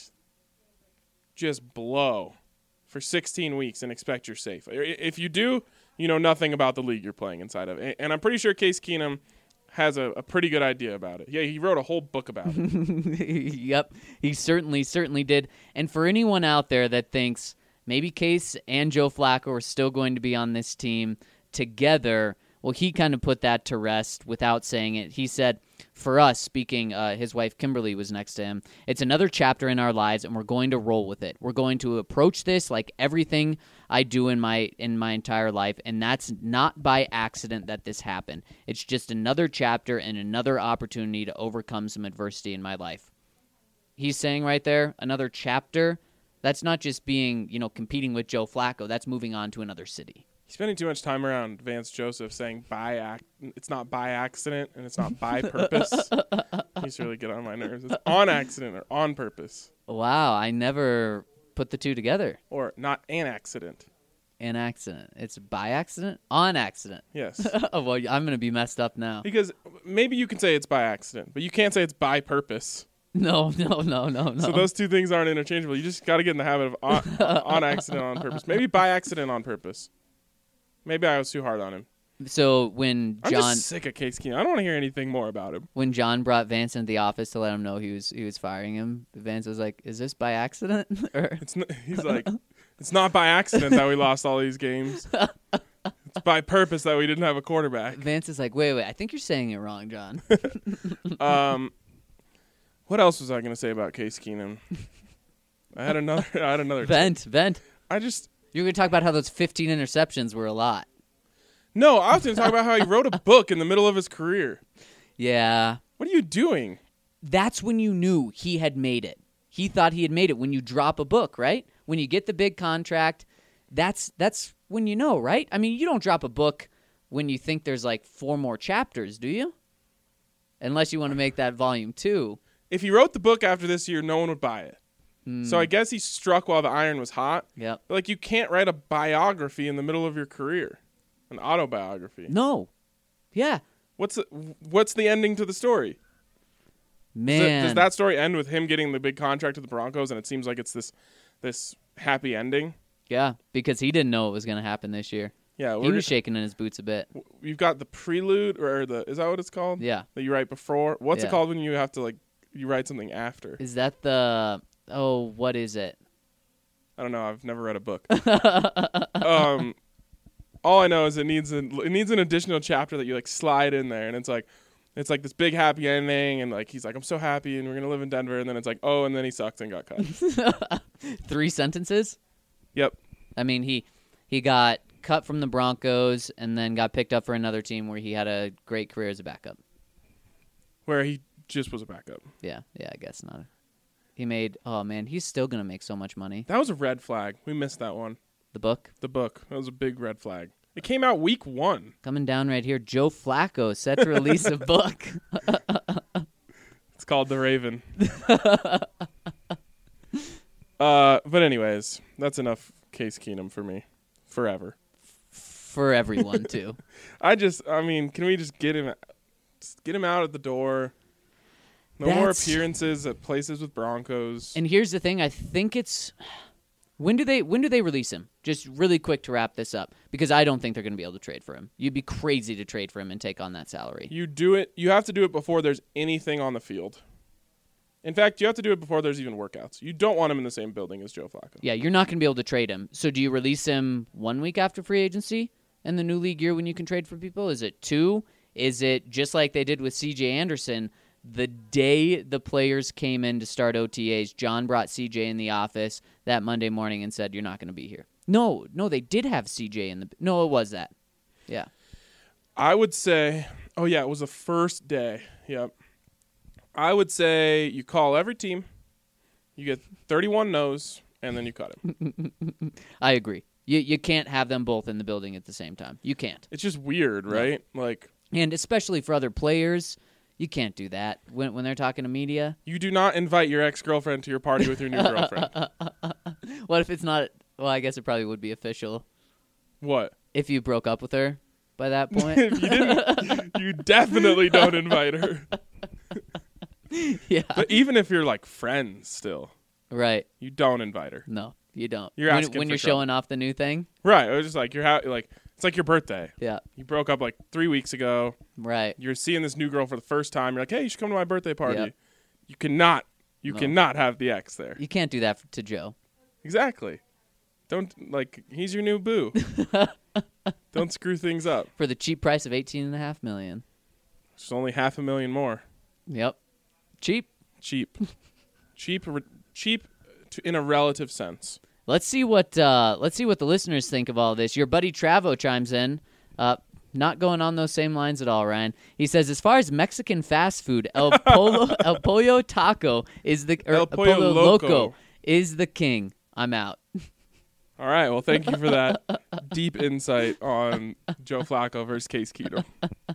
just blow for sixteen weeks and expect you're safe. If you do, you know nothing about the league you're playing inside of. And I'm pretty sure Case Keenum has a, a pretty good idea about it. Yeah, he wrote a whole book about it. Yep, he certainly, certainly did. And for anyone out there that thinks maybe Case and Joe Flacco are still going to be on this team together, well, he kind of put that to rest without saying it. He said, for us, speaking, uh, his wife Kimberly was next to him, it's another chapter in our lives, and we're going to roll with it. We're going to approach this like everything I do in my in my entire life, and that's not by accident that this happened. It's just another chapter and another opportunity to overcome some adversity in my life. He's saying right there, another chapter. That's not just being, you know, competing with Joe Flacco. That's moving on to another city. He's spending too much time around Vance Joseph saying by ac- it's not by accident and it's not by purpose. He's really get on my nerves. It's on accident or on purpose. Wow, I never put the two together. Or not an accident. An accident. It's by accident? On accident. Yes. Oh, well, I'm going to be messed up now. Because maybe you can say it's by accident, but you can't say it's by purpose. No, no, no, no, no. So those two things aren't interchangeable. You just got to get in the habit of on, on accident, on purpose. Maybe by accident, on purpose. Maybe I was too hard on him. So when I'm John, just sick of Case Keenum. I don't want to hear anything more about him. when John brought Vance into the office to let him know he was he was firing him, Vance was like, "Is this by accident?" or It's n- he's like, it's not by accident that we lost all these games. It's by purpose that we didn't have a quarterback. Vance is like, "Wait, wait, I think you're saying it wrong, John." Um, what else was I going to say about Case Keenum? I had another. I had another. Vent, vent. I just You're going to talk about how those fifteen interceptions were a lot. no. I was going to talk about how he wrote a book in the middle of his career. Yeah. What are you doing? That's when you knew he had made it. He thought he had made it when you drop a book, right? When you get the big contract, that's that's when you know, right? I mean, you don't drop a book when you think there's like four more chapters, do you? Unless you want to make that volume two. If he wrote the book after this year, no one would buy it. So I guess he struck while the iron was hot. Yep. But like, you can't write a biography in the middle of your career, an autobiography. No. Yeah. What's the, what's the ending to the story? Does, Man. it- does that story end with him getting the big contract to the Broncos, and it seems like it's this this happy ending? Yeah, because he didn't know it was going to happen this year. Yeah, He we're, was shaking in his boots a bit. you've got the prelude, or the is that what it's called? Yeah. That you write before. What's Yeah. it called when you have to like you write something after? Is that the... Oh, what is it? I don't know. I've never read a book. um, all I know is it needs an it needs an additional chapter that you like slide in there, and it's like it's like this big happy ending, and like he's like, I'm so happy, and we're gonna live in Denver, and then it's like, oh, and then he sucked and got cut. Three sentences? Yep. I mean, he he got cut from the Broncos and then got picked up for another team where he had a great career as a backup. Where he just was a backup. Yeah, yeah, I guess not. He made, oh man, he's still going to make so much money. That was a red flag. We missed that one. The book The book. That was a big red flag. It came out week one. coming down right here. Joe Flacco set to release a book. It's called The Raven. uh, but anyways, that's enough Case Keenum for me. Forever. For everyone, too. I just, I mean, can we just get him, just get him out at the door? No more That's- appearances at places with Broncos. And here's the thing, I think it's... When do they when do they release him? Just really quick to wrap this up, because I don't think they're going to be able to trade for him. You'd be crazy to trade for him and take on that salary. You do it. You have to do it before there's anything on the field. In fact, you have to do it before there's even workouts. You don't want him in the same building as Joe Flacco. Yeah, you're not going to be able to trade him. So do you release him one week after free agency in the new league year when you can trade for people? Is it two? Is it just like they did with C J Anderson? The day the players came in to start O T As, John brought C J in the office that Monday morning and said, you're not going to be here. No, no, they did have C J in the... No, it was that. Yeah. I would say, oh yeah, it was the first day. Yep. I would say you call every team, you get thirty-one no's, and then you cut him. I agree. You you can't have them both in the building at the same time. You can't. It's just weird, right? Like, And especially for other players, you can't do that when when they're talking to media. you do not invite your ex-girlfriend to your party with your new girlfriend. What if it's not... Well, I guess it probably would be official What? if you broke up with her by that point. If you didn't, you definitely don't invite her. Yeah. But even if you're like friends still, Right. you don't invite her. No, you don't. You're when asking when for you're trouble. showing off the new thing. Right. It was just like you're ha- like It's like your birthday. Yeah. You broke up like three weeks ago. Right. You're seeing this new girl for the first time. You're like, hey, you should come to my birthday party. Yep. You cannot. You No. cannot have the ex there. You can't do that f- to Joe. Exactly. Don't, like, he's your new boo. Don't screw things up. For the cheap price of eighteen and a half million. It's only half a million more. Yep. Cheap. Cheap. cheap, re- cheap to, in a relative sense. Let's see what uh, let's see what the listeners think of all this. Your buddy Travo chimes in. Uh, not going on those same lines at all, Ryan. He says, as far as Mexican fast food, El Polo, El Pollo Taco is the or El Pollo Loco. is the king. I'm out. All right. Well, thank you for that deep insight on Joe Flacco versus Case Keenum.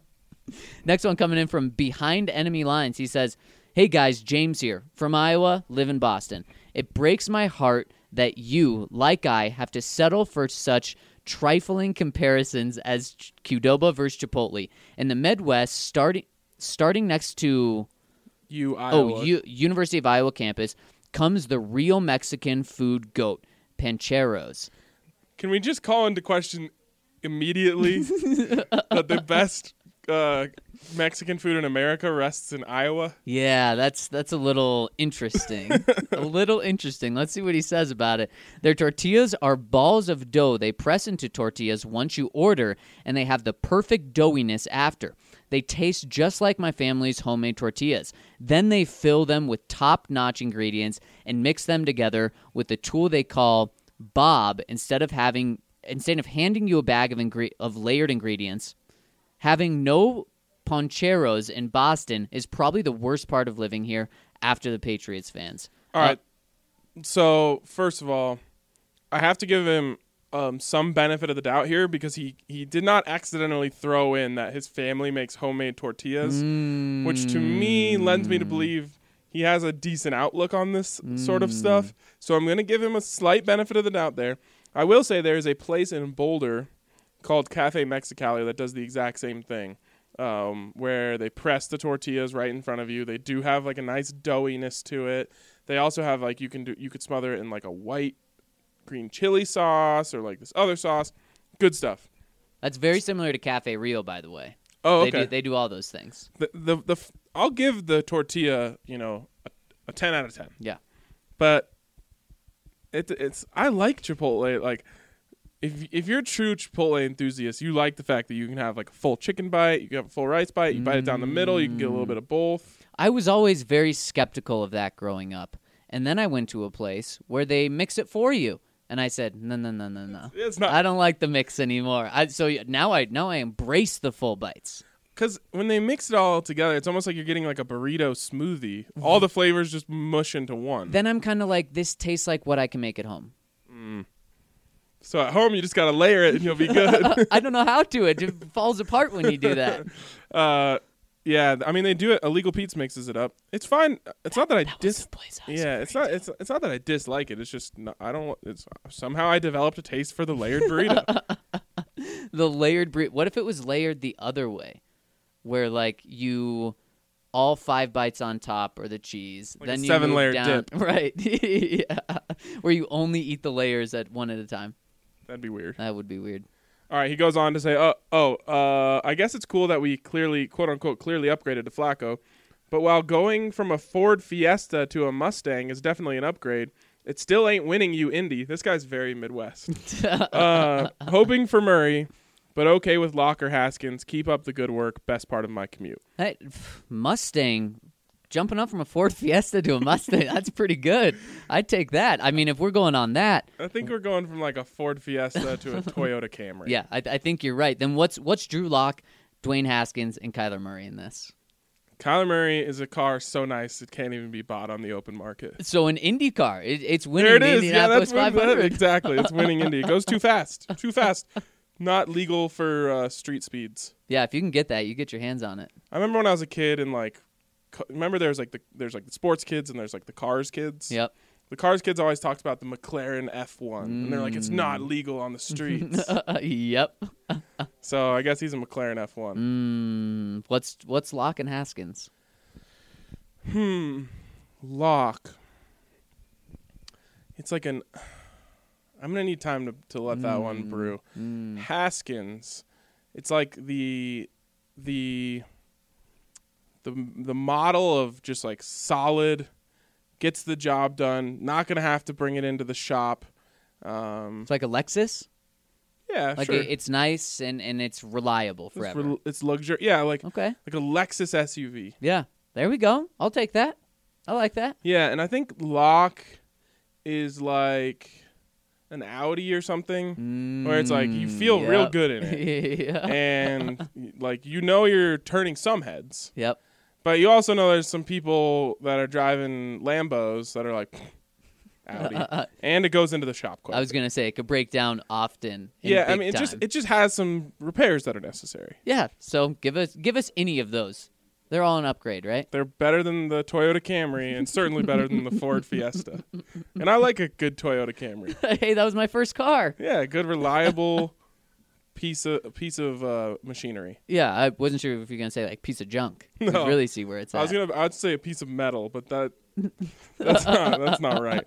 Next one coming in from behind enemy lines. He says, hey guys, James here from Iowa, live in Boston. It breaks my heart that you, like I, have to settle for such trifling comparisons as Qdoba versus Chipotle. In the Midwest, starting starting next to You, Iowa. oh U- University of Iowa campus, comes the real Mexican food goat, Pancheros. Can we just call into question immediately that the best uh, Mexican food in America rests in Iowa? Yeah, that's that's a little interesting. a little interesting. Let's see what he says about it. Their tortillas are balls of dough they press into tortillas once you order, and they have the perfect doughiness after. They taste just like my family's homemade tortillas. Then they fill them with top-notch ingredients and mix them together with a tool they call Bob. Instead of having instead of handing you a bag of ingre- of layered ingredients, having no Pancheros in Boston is probably the worst part of living here after the Patriots fans. All Uh, right. So, first of all, I have to give him um, some benefit of the doubt here because he, he did not accidentally throw in that his family makes homemade tortillas, Mm. which to me lends me to believe he has a decent outlook on this sort of stuff. So I'm going to give him a slight benefit of the doubt there. I will say there is a place in Boulder called Cafe Mexicali that does the exact same thing, um, where they press the tortillas right in front of you. They do have like a nice doughiness to it. They also have like you can do you could smother it in like a white green chili sauce or like this other sauce. Good stuff. That's very similar to Cafe Rio, by the way. Oh, They okay. do, they do all those things. The the the f- I'll give the tortilla, you know, a, a ten out of ten. Yeah. But it it's I like Chipotle. Like if if you're a true Chipotle enthusiast, you like the fact that you can have like a full chicken bite, you can have a full rice bite, you bite it down the middle, you can get a little bit of both. I was always very skeptical of that growing up. And then I went to a place where they mix it for you. And I said, no, no, no, no, no. It's not I don't like the mix anymore. I, so now I now I embrace the full bites. because when they mix it all together, it's almost like you're getting like a burrito smoothie. All the flavors just mush into one. Then I'm kind of like, this tastes like what I can make at home. So at home, you just gotta layer it and you'll be good. I don't know how to. It just falls apart when you do that. uh, yeah, I mean they do it. Illegal Pete's mixes it up. It's fine. It's not that I That was dis. the place I was Yeah, it's not. It's it's not that I dislike it. It's just not, I don't. It's somehow I developed a taste for the layered burrito. The layered burrito. What if it was layered the other way, where like you all five bites on top or the cheese, Like a then you seven-layer move down, dip. right? Yeah. Where you only eat the layers at one at a time. That'd be weird. That would be weird. All right, he goes on to say, "Oh, oh, uh, I guess it's cool that we clearly, quote unquote, clearly upgraded to Flacco, but while going from a Ford Fiesta to a Mustang is definitely an upgrade, it still ain't winning you, Indy. This guy's very Midwest. uh, hoping for Murray, but okay with Locker Haskins. Keep up the good work. Best part of my commute. Hey, pff, Mustang, jumping up from a Ford Fiesta to a Mustang, that's pretty good. I'd take that. I mean, if we're going on that, I think we're going from like a Ford Fiesta to a Toyota Camry. yeah, I, I think you're right. Then what's what's Drew Lock, Dwayne Haskins, and Kyler Murray in this? Kyler Murray is a car so nice it can't even be bought on the open market. So an Indy car, it, it's There winning it the is. Yeah, Indianapolis that's what, five that, hundred. exactly. It's winning Indy. It goes too fast. Too fast. Not legal for uh, street speeds. Yeah, if you can get that, you get your hands on it. I remember when I was a kid and like, co- remember there's like the there's like the sports kids and there's like the cars kids. Yep. The cars kids always talked about the McLaren F one, and they're like, it's not legal on the streets. Yep. So I guess he's a McLaren F one. Mm, what's what's Lock and Haskins? Hmm. Lock. It's like an. I'm gonna need time to to let that one brew. Mm. Haskins, it's like the the the the model of just like solid, gets the job done. Not gonna have to bring it into the shop. Um, It's like a Lexus. yeah, Like sure. it, it's nice and, and it's reliable it's, forever. re- it's luxury. Yeah, like Okay. like a Lexus S U V. Yeah. There we go. I'll take that. I like that. Yeah, and I think Locke is like an Audi or something, where it's like you feel Mm, real yep. good in it, yeah. and like you know you're turning some heads, Yep. but you also know there's some people that are driving Lambos that are like Audi, and it goes into the shop quite. I was a bit. gonna say it could break down often. in Yeah, I big mean it just time. it just has some repairs that are necessary. Yeah. So give us give us any of those. They're all an upgrade, right? They're better than the Toyota Camry, and certainly better than the Ford Fiesta. And I like a good Toyota Camry. Hey, that was my first car. Yeah, a good reliable piece of piece of uh, machinery. Yeah, I wasn't sure if you're gonna say like piece of junk. You No. really see where it's I at. was gonna I'd say a piece of metal, but that that's not that's not right.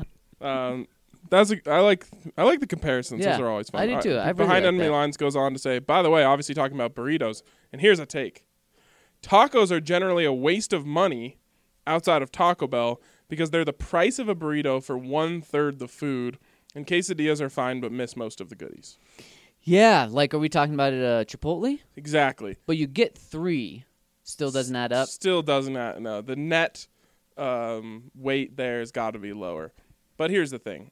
Um, that's a, I like I like the comparisons. Yeah, Those are always fun. I do too. I really Behind like Enemy that. Lines goes on to say, by the way, obviously talking about burritos, and here's a take. Tacos are generally a waste of money outside of Taco Bell because they're the price of a burrito for one third the food, and quesadillas are fine but miss most of the goodies. Yeah, like are we talking about it uh, Chipotle? Exactly. But you get three. Still doesn't add up. Still doesn't add. No, the net um, weight there has got to be lower. But here's the thing.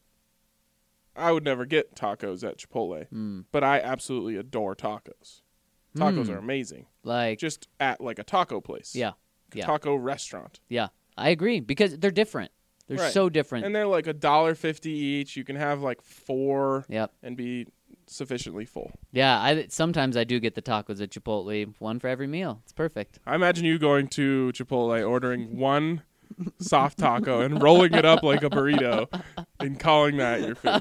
I would never get tacos at Chipotle, Mm. but I absolutely adore tacos. Tacos Mm. are amazing. Like Just at like a taco place. yeah, A yeah, taco restaurant. yeah. I agree because they're different. They're Right. so different. And they're like a dollar fifty each. You can have like four Yep. and be sufficiently full. Yeah, I sometimes I do get the tacos at Chipotle, one for every meal. It's perfect. I imagine you going to Chipotle, ordering one soft taco and rolling it up like a burrito and calling that your food.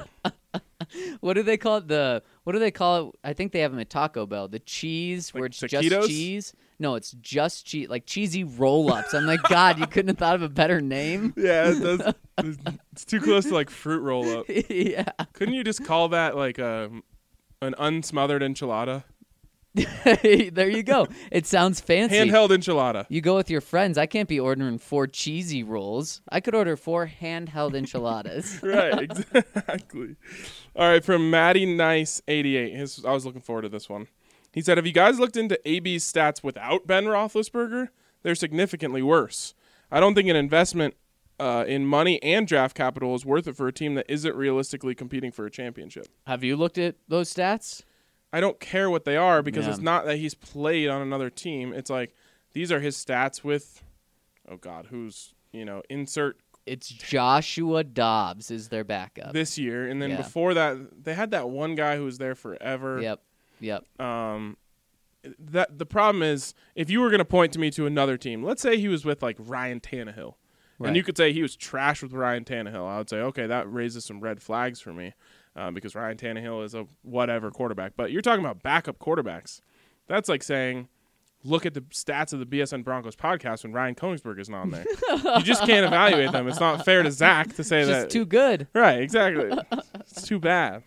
What do they call it? The what do they call it? I think they have them at Taco Bell. The cheese where Like it's taquitos? just cheese. No, it's just cheese, like cheesy roll-ups. I'm like, God, you couldn't have thought of a better name. Yeah, it does. It's too close to like fruit roll up. Yeah. Couldn't you just call that like a an unsmothered enchilada? There you go. It sounds fancy. Handheld enchilada. You go with your friends. I can't be ordering four cheesy rolls. I could order four handheld enchiladas. Right, exactly. All right, from Matty Nice eighty-eight. His, I was looking forward to this one. He said, have you guys looked into A B's stats without Ben Roethlisberger? They're significantly worse. I don't think an investment uh, in money and draft capital is worth it for a team that isn't realistically competing for a championship. Have you looked at those stats? I don't care what they are because Yeah. it's not that he's played on another team. It's like these are his stats with, oh God, who's, you know, insert It's Joshua Dobbs is their backup. this year. And then Yeah. before that, they had that one guy who was there forever. Yep. Yep. Um, that the problem is if you were going to point to me to another team, let's say he was with like Ryan Tannehill, Right. and you could say he was trash with Ryan Tannehill. I would say, okay, that raises some red flags for me uh, because Ryan Tannehill is a whatever quarterback. But you're talking about backup quarterbacks. That's like saying, look at the stats of the B S N Broncos podcast when Ryan Koenigsberg isn't on there. You just can't evaluate them. It's not fair to Zach to say It's that. just too good. Right, exactly. It's too bad.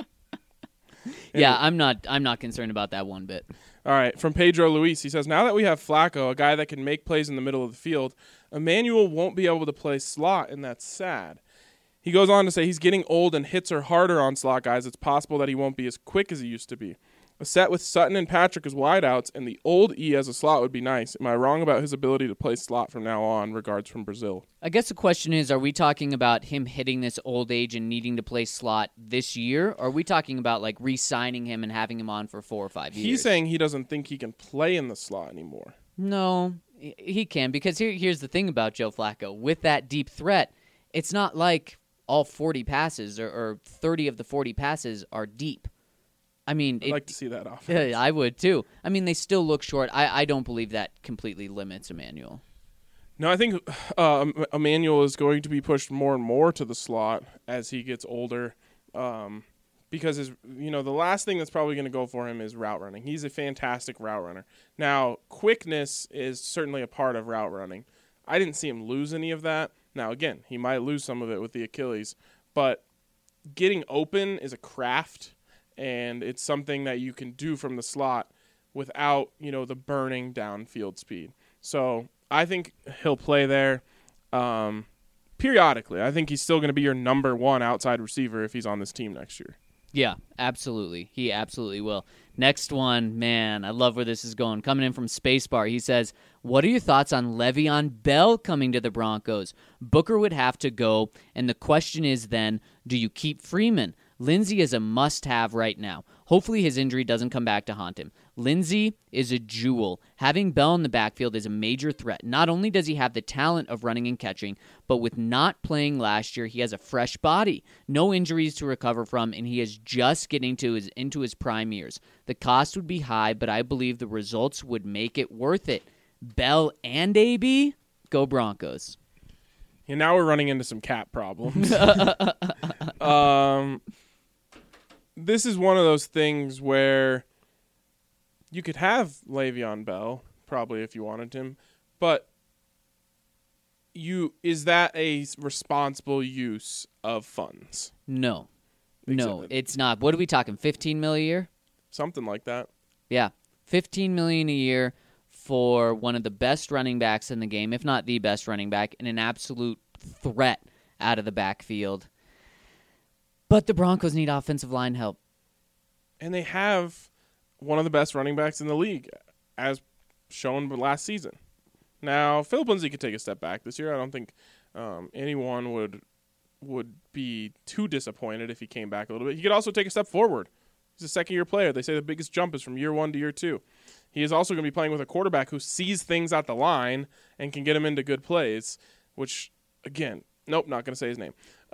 Yeah, I'm not. I'm not concerned about that one bit. All right, from Pedro Luis, he says, now that we have Flacco, a guy that can make plays in the middle of the field, Emmanuel won't be able to play slot, and that's sad. He goes on to say he's getting old and hits are harder on slot guys. It's possible that he won't be as quick as he used to be. A set with Sutton and Patrick as wideouts and the old E as a slot would be nice. Am I wrong about his ability to play slot from now on? Regards from Brazil. I guess the question is, are we talking about him hitting this old age and needing to play slot this year? Or are we talking about like re-signing him and having him on for four or five years? He's saying he doesn't think he can play in the slot anymore. No, he- he can, because here, here's the thing about Joe Flacco. With that deep threat, it's not like all forty passes or, or thirty of the forty passes are deep. I mean, I'd it, like to see that off. yeah, I would too. I mean, they still look short. I, I don't believe that completely limits Emmanuel. No, I think uh, Emmanuel is going to be pushed more and more to the slot as he gets older, um, because his, you know, the last thing that's probably going to go for him is route running. He's a fantastic route runner. Now, quickness is certainly a part of route running. I didn't see him lose any of that. Now, again, he might lose some of it with the Achilles, but getting open is a craft, and it's something that you can do from the slot without, you know, the burning downfield speed. So I think he'll play there um, periodically. I think he's still going to be your number one outside receiver if he's on this team next year. Yeah, absolutely. He absolutely will. Next one, man, I love where this is going. Coming in from Spacebar, he says, what are your thoughts on Le'Veon Bell coming to the Broncos? Booker would have to go, and the question is then, do you keep Freeman? Lindsey is a must-have right now. Hopefully his injury doesn't come back to haunt him. Lindsey is a jewel. Having Bell in the backfield is a major threat. Not only does he have the talent of running and catching, but with not playing last year, he has a fresh body, no injuries to recover from, and he is just getting to his into his prime years. The cost would be high, but I believe the results would make it worth it. Bell and A B, go Broncos. And now we're running into some cap problems. um, this is one of those things where you could have Le'Veon Bell, probably if you wanted him, but you is that a responsible use of funds? No. No, Exactly. it's not. What are we talking, fifteen million a year? Something like that. Yeah, fifteen million dollars a year for one of the best running backs in the game, if not the best running back, and an absolute threat out of the backfield. But the Broncos need offensive line help. And they have one of the best running backs in the league, as shown last season. Now, Philip Lindsay could take a step back this year. I don't think um, anyone would would be too disappointed if he came back a little bit. He could also take a step forward. He's a second-year player. They say the biggest jump is from year one to year two. He is also going to be playing with a quarterback who sees things at the line and can get him into good plays, which, again, nope, not going to say his name.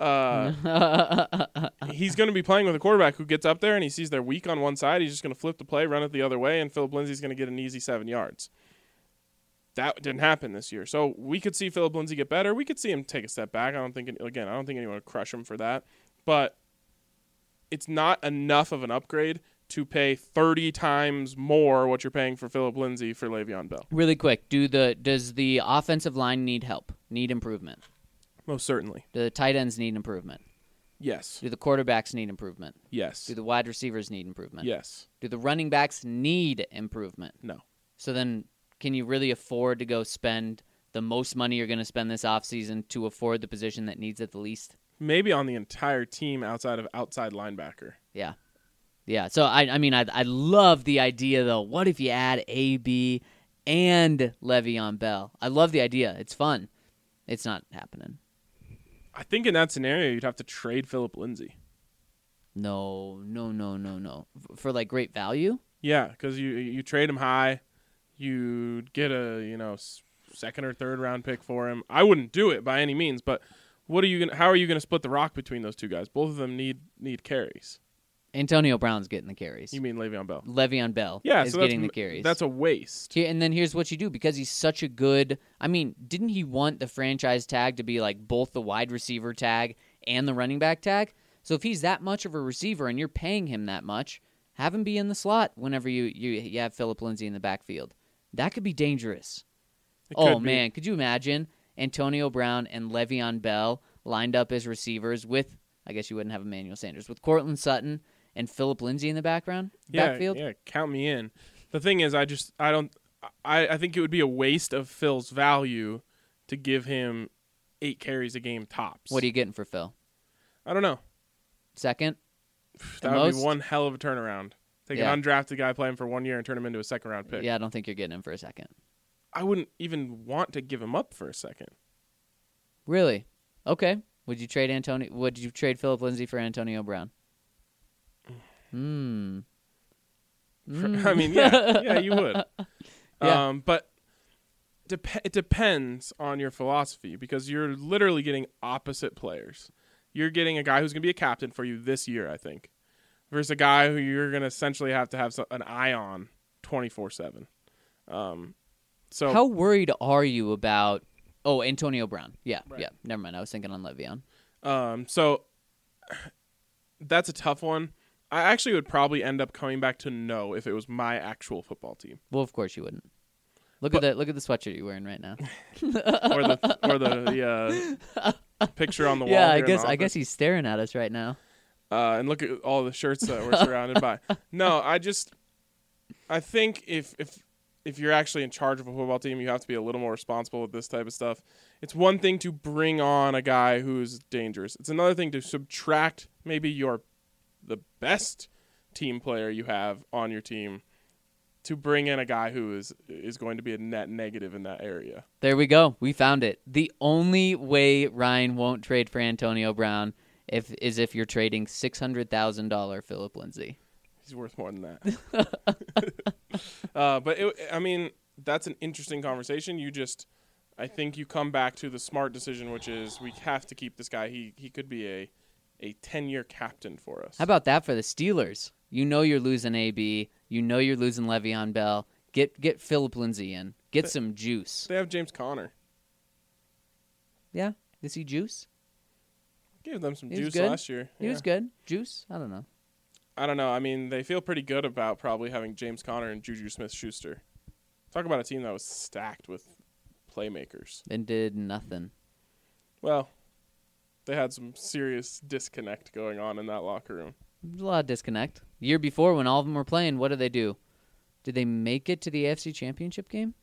Uh, he's going to be playing with a quarterback who gets up there and he sees they're weak on one side. He's just going to flip the play, run it the other way, and Philip Lindsay's going to get an easy seven yards. That didn't happen this year. So we could see Philip Lindsay get better. We could see him take a step back. I don't think, again, I don't think anyone would crush him for that. But it's not enough of an upgrade to pay thirty times more what you're paying for Philip Lindsay for Le'Veon Bell. Really quick, do the does the offensive line need help, need improvement? Most certainly. Do the tight ends need improvement? Yes. Do the quarterbacks need improvement? Yes. Do the wide receivers need improvement? Yes. Do the running backs need improvement? No. So then can you really afford to go spend the most money you're going to spend this offseason to afford the position that needs it the least? Maybe on the entire team outside of outside linebacker. Yeah. Yeah. So, I I mean, I I love the idea, though. What if you add A B and Le'Veon Bell? I love the idea. It's fun. It's not happening. I think in that scenario, you'd have to trade Philip Lindsay. No, no, no, no, no. F- For, like, great value? Yeah, because you you trade him high, you'd get a you know s- second or third round pick for him. I wouldn't do it by any means, but what are you gonna? How are you gonna split the rock between those two guys? Both of them need need carries. Antonio Brown's getting the carries. You mean Le'Veon Bell? Le'Veon Bell Yeah, is so that's, getting the carries. That's a waste. Here, and then here's what you do, because he's such a good – I mean, didn't he want the franchise tag to be like both the wide receiver tag and the running back tag? So if he's that much of a receiver and you're paying him that much, have him be in the slot whenever you, you, you have Philip Lindsay in the backfield. That could be dangerous. It Oh, could be. man. Could you imagine Antonio Brown and Le'Veon Bell lined up as receivers with – I guess you wouldn't have Emmanuel Sanders – with Cortland Sutton – and Philip Lindsay in the background, Yeah, backfield. yeah, count me in. The thing is, I just I don't I, I think it would be a waste of Phil's value to give him eight carries a game tops. What are you getting for Phil? I don't know. Second? That The would be most? one hell of a turnaround. Take Yeah. an undrafted guy, play him for one year, and turn him into a second round pick. Yeah, I don't think you're getting him for a second. I wouldn't even want to give him up for a second. Really? Okay. Would you trade Antonio? Would you trade Philip Lindsay for Antonio Brown? Hmm. I mean, yeah, yeah, you would. Yeah. Um, but dep- it depends on your philosophy, because you're literally getting opposite players. You're getting a guy who's going to be a captain for you this year, I think, versus a guy who you're going to essentially have to have so- an eye on twenty-four seven. Um, so How worried are you about? Oh, Antonio Brown. Yeah, Right. yeah. Never mind. I was thinking on Le'Veon. Um, so that's a tough one. I actually would probably end up coming back to no if it was my actual football team, Well, of course you wouldn't. Look But- at that. Look at the sweatshirt you're wearing right now. or the or the, the uh, picture on the wall. yeah, I here in guess. the I office. guess he's staring at us right now. Uh, and look at all the shirts that we're surrounded by. No, I just, I think if if if you're actually in charge of a football team, you have to be a little more responsible with this type of stuff. It's one thing to bring on a guy who's dangerous. It's another thing to subtract maybe your the best team player you have on your team to bring in a guy who is is going to be a net negative in that area. There we go. We found it. The only way Ryan won't trade for Antonio Brown if is if you're trading six hundred thousand dollars Philip Lindsay. He's worth more than that. uh, but, it, I mean, that's an interesting conversation. You just, I think you come back to the smart decision, which is we have to keep this guy. He he could be a a ten-year captain for us. How about that for the Steelers? You know you're losing A B. You know you're losing Le'Veon Bell. Get get Philip Lindsay in. Get they, some juice. They have James Conner. Yeah? Is he juice? Gave them some He juice good. last year. He yeah. was good. Juice? I don't know. I don't know. I mean, they feel pretty good about probably having James Conner and Juju Smith-Schuster. Talk about a team that was stacked with playmakers. And did nothing. Well, they had some serious disconnect going on in that locker room. There's a lot of disconnect. The year before, when all of them were playing, what did they do? Did they make it to the A F C Championship game?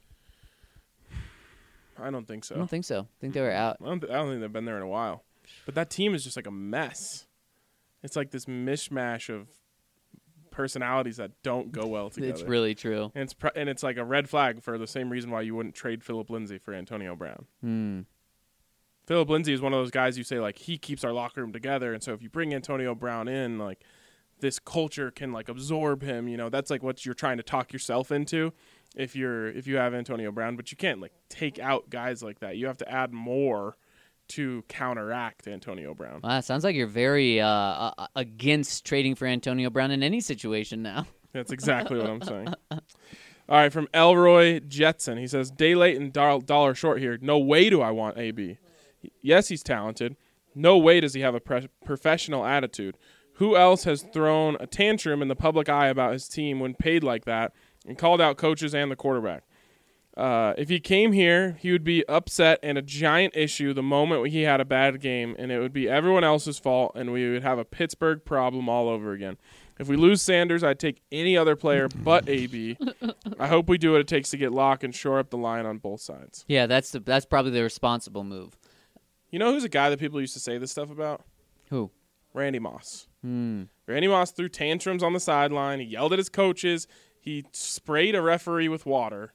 I don't think so. I don't think so. I think they were out. I don't, th- I don't think they've been there in a while. But that team is just like a mess. It's like this mishmash of personalities that don't go well together. It's really true. And it's pr- and it's like a red flag for the same reason why you wouldn't trade Philip Lindsay for Antonio Brown. Hmm. Philip Lindsay is one of those guys you say, like, he keeps our locker room together. And so if you bring Antonio Brown in, like, this culture can, like, absorb him. You know, that's, like, what you're trying to talk yourself into if you're if you have Antonio Brown. But you can't, like, take out guys like that. You have to add more to counteract Antonio Brown. Wow, sounds like you're very uh, uh, against trading for Antonio Brown in any situation now. That's exactly what I'm saying. All right, from Elroy Jetson. He says, day late and dollar, dollar short here. No way do I want A B. Yes, he's talented. No way does he have a pre- professional attitude. Who else has thrown a tantrum in the public eye about his team when paid like that and called out coaches and the quarterback? Uh, if he came here, he would be upset and a giant issue the moment he had a bad game, and it would be everyone else's fault, and we would have a Pittsburgh problem all over again. If we lose Sanders, I'd take any other player but A B. I hope we do what it takes to get Locke and shore up the line on both sides. Yeah, that's the, that's probably the responsible move. You know who's a guy that people used to say this stuff about? Who? Randy Moss. Hmm. Randy Moss threw tantrums on the sideline. He yelled at his coaches. He sprayed a referee with water.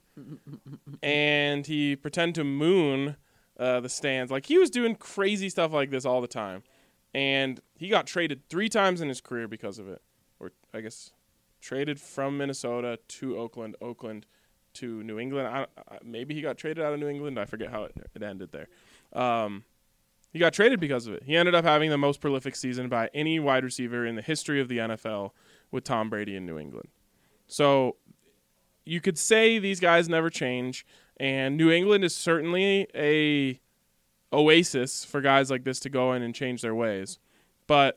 And he pretended to moon uh, the stands. Like, he was doing crazy stuff like this all the time. And he got traded three times in his career because of it. Or, I guess, traded from Minnesota to Oakland, Oakland to New England. I, I, maybe he got traded out of New England. I forget how it, it ended there. Um, he got traded because of it. He ended up having the most prolific season by any wide receiver in the history of the N F L with Tom Brady in New England. So you could say these guys never change, and New England is certainly a oasis for guys like this to go in and change their ways. But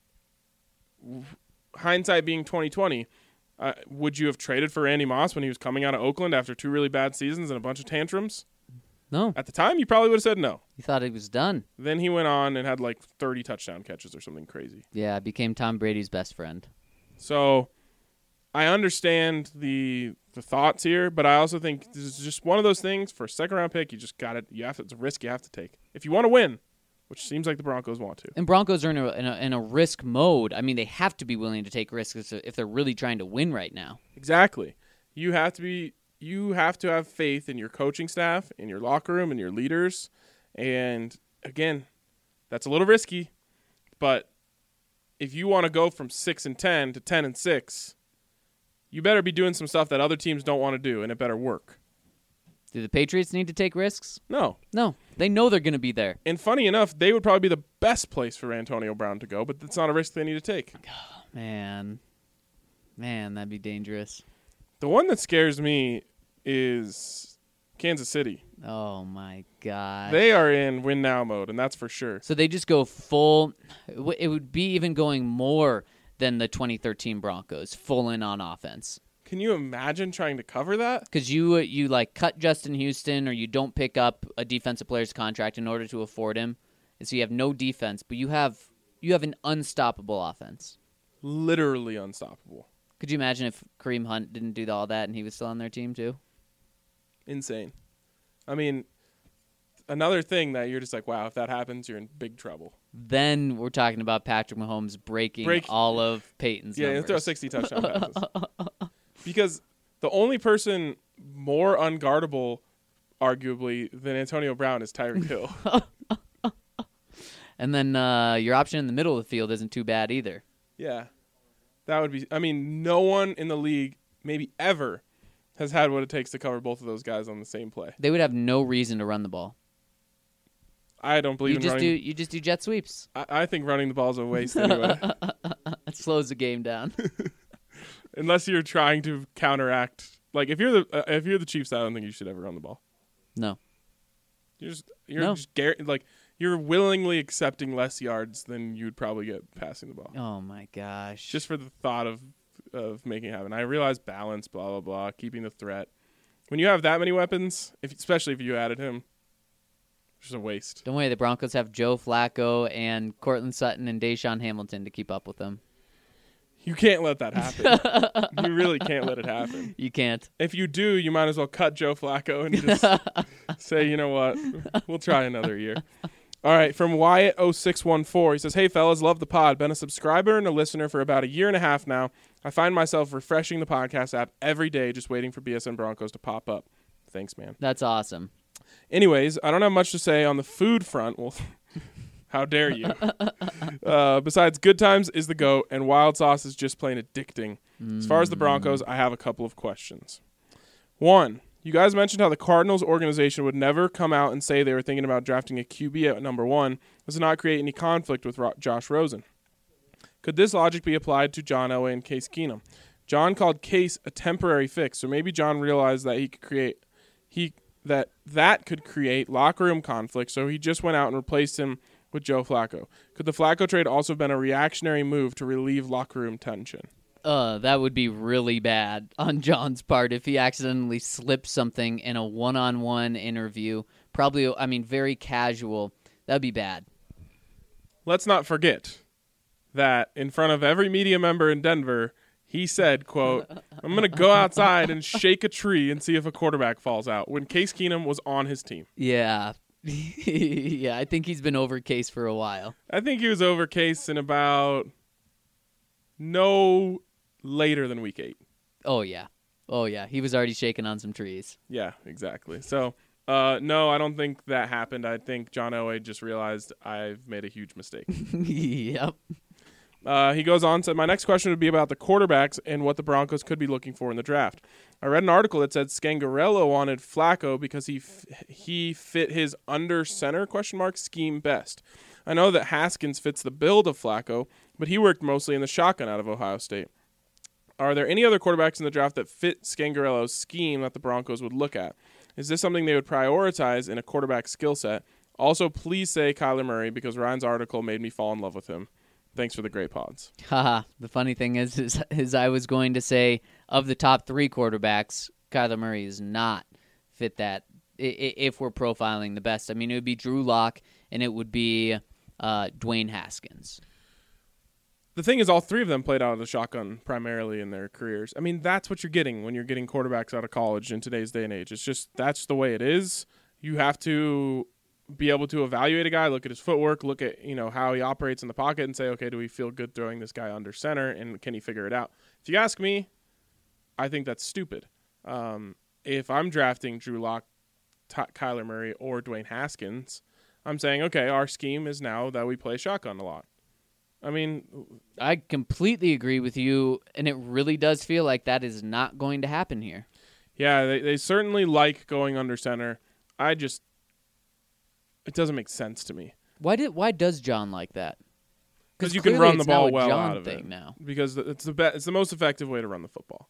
hindsight being twenty twenty, uh, would you have traded for Randy Moss when he was coming out of Oakland after two really bad seasons and a bunch of tantrums? No. At the time, you probably would have said no. You thought it was done. Then he went on and had like thirty touchdown catches or something crazy. Yeah, became Tom Brady's best friend. So I understand the the thoughts here, but I also think this is just one of those things for a second round pick. You just got it. You have to, it's a risk you have to take if you want to win, which seems like the Broncos want to. And Broncos are in a, in a, in a risk mode. I mean, they have to be willing to take risks if they're really trying to win right now. Exactly. You have to be. You have to have faith in your coaching staff, in your locker room, and your leaders. And again, that's a little risky, but if you want to go from six and ten to ten and six, you better be doing some stuff that other teams don't want to do, and it better work. Do the Patriots need to take risks? No. No. They know they're going to be there. And funny enough, they would probably be the best place for Antonio Brown to go, but that's not a risk they need to take. Oh, man. Man, that'd be dangerous. The one that scares me is Kansas City. Oh, my God. They are in win now mode, and that's for sure. So they just go full. It would be even going more than the twenty thirteen Broncos, full in on offense. Can you imagine trying to cover that? Because you, you like cut Justin Houston or you don't pick up a defensive player's contract in order to afford him. And so you have no defense, but you have You have an unstoppable offense. Literally unstoppable. Could you imagine if Kareem Hunt didn't do all that and he was still on their team too? Insane. I mean, another thing that you're just like, wow, if that happens, you're in big trouble. Then we're talking about Patrick Mahomes breaking Break- all of Peyton's Yeah, he'll numbers. throw sixty touchdown passes. Because the only person more unguardable, arguably, than Antonio Brown is Tyreek Hill. And then uh, your option in the middle of the field isn't too bad either. Yeah. That would be, I mean, no one in the league, maybe ever, has had what it takes to cover both of those guys on the same play. They would have no reason to run the ball. I don't believe You in just do running. you just do jet sweeps. I, I think running the ball is a waste anyway. That slows the game down. Unless you're trying to counteract. Like, if you're the uh, if you're the Chiefs, I don't think you should ever run the ball. No. You're just, you're No. just gar- like, you're willingly accepting less yards than you'd probably get passing the ball. Oh my gosh. Just for the thought of of making it happen. I realize balance, blah, blah, blah, keeping the threat. When you have that many weapons, if especially if you added him, it's just a waste. Don't worry, the Broncos have Joe Flacco and Cortland Sutton and Deshaun Hamilton to keep up with them. You can't let that happen. You really can't let it happen. You can't. If you do, you might as well cut Joe Flacco and just say, you know what, we'll try another year. All right, from Wyatt oh six one four, he says, hey, fellas, love the pod. Been a subscriber and a listener for about a year and a half now. I find myself refreshing the podcast app every day just waiting for B S N Broncos to pop up. Thanks, man. That's awesome. Anyways, I don't have much to say on the food front. Well, how dare you? uh, besides, Good Times is the GOAT, and Wild Sauce is just plain addicting. As far as the Broncos, I have a couple of questions. One, you guys mentioned how the Cardinals organization would never come out and say they were thinking about drafting a Q B at number one, as to not create any conflict with Ro- Josh Rosen. Could this logic be applied to John Elway and Case Keenum? John called Case a temporary fix, so maybe John realized that he could create he that that could create locker room conflict, so he just went out and replaced him with Joe Flacco. Could the Flacco trade also have been a reactionary move to relieve locker room tension? Uh, that would be really bad on John's part if he accidentally slipped something in a one-on-one interview. Probably, I mean, very casual. That'd be bad. Let's not forget that in front of every media member in Denver, he said, quote, I'm going to go outside and shake a tree and see if a quarterback falls out, when Case Keenum was on his team. Yeah. Yeah, I think he's been over Case for a while. I think he was over Case in about no later than week eight. Oh, yeah. Oh, yeah. He was already shaking on some trees. Yeah, exactly. So, uh, no, I don't think that happened. I think John Elway just realized I've made a huge mistake. Yep. Uh, he goes on, said, my next question would be about the quarterbacks and what the Broncos could be looking for in the draft. I read an article that said Scangarello wanted Flacco because he f- he fit his under center question mark scheme best. I know that Haskins fits the build of Flacco, but he worked mostly in the shotgun out of Ohio State. Are there any other quarterbacks in the draft that fit Scangarello's scheme that the Broncos would look at? Is this something they would prioritize in a quarterback skill set? Also, please say Kyler Murray because Ryan's article made me fall in love with him. Thanks for the great pods. Haha. The funny thing is, is, is I was going to say, of the top three quarterbacks, Kyler Murray is not fit that, i- i- if we're profiling the best. I mean, it would be Drew Lock, and it would be uh, Dwayne Haskins. The thing is, all three of them played out of the shotgun primarily in their careers. I mean, that's what you're getting when you're getting quarterbacks out of college in today's day and age. It's just, that's the way it is. You have to be able to evaluate a guy, look at his footwork, look at, you know, how he operates in the pocket and say, okay, do we feel good throwing this guy under center, and can he figure it out? If you ask me, I think that's stupid. Um, if I'm drafting Drew Lock, Ty- Kyler Murray, or Dwayne Haskins, I'm saying, okay, our scheme is now that we play shotgun a lot. I mean, I completely agree with you, and it really does feel like that is not going to happen here. yeah, they, they certainly like going under center. I just, it doesn't make sense to me. Why did? Why does John like that? Because you can clearly run the it's now ball a well John out of thing it. now. Because it's the be- it's the most effective way to run the football.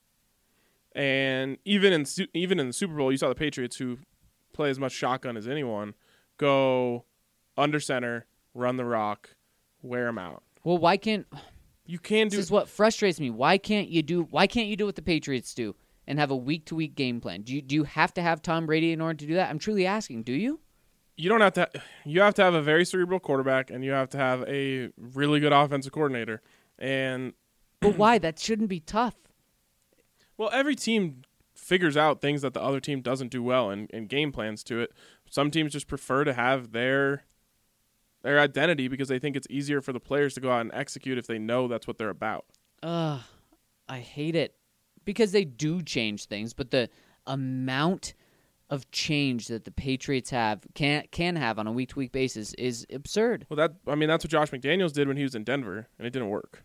And even in su- even in the Super Bowl, you saw the Patriots, who play as much shotgun as anyone, go under center, run the rock, wear them out. Well, why can't? You can This do. is what frustrates me. Why can't you do? Why can't you do what the Patriots do and have a week to week game plan? Do you do you have to have Tom Brady in order to do that? I'm truly asking. Do you? you don't have to. You have to have a very cerebral quarterback, and you have to have a really good offensive coordinator. And But why? That shouldn't be tough. well, every team figures out things that the other team doesn't do well, and, and game plans to it. Some teams just prefer to have their their identity because they think it's easier for the players to go out and execute if they know that's what they're about. Ugh, I hate it because they do change things, but the amount of change that the Patriots have can can have on a week to week basis is absurd. Well, that I mean that's what Josh McDaniels did when he was in Denver, and it didn't work.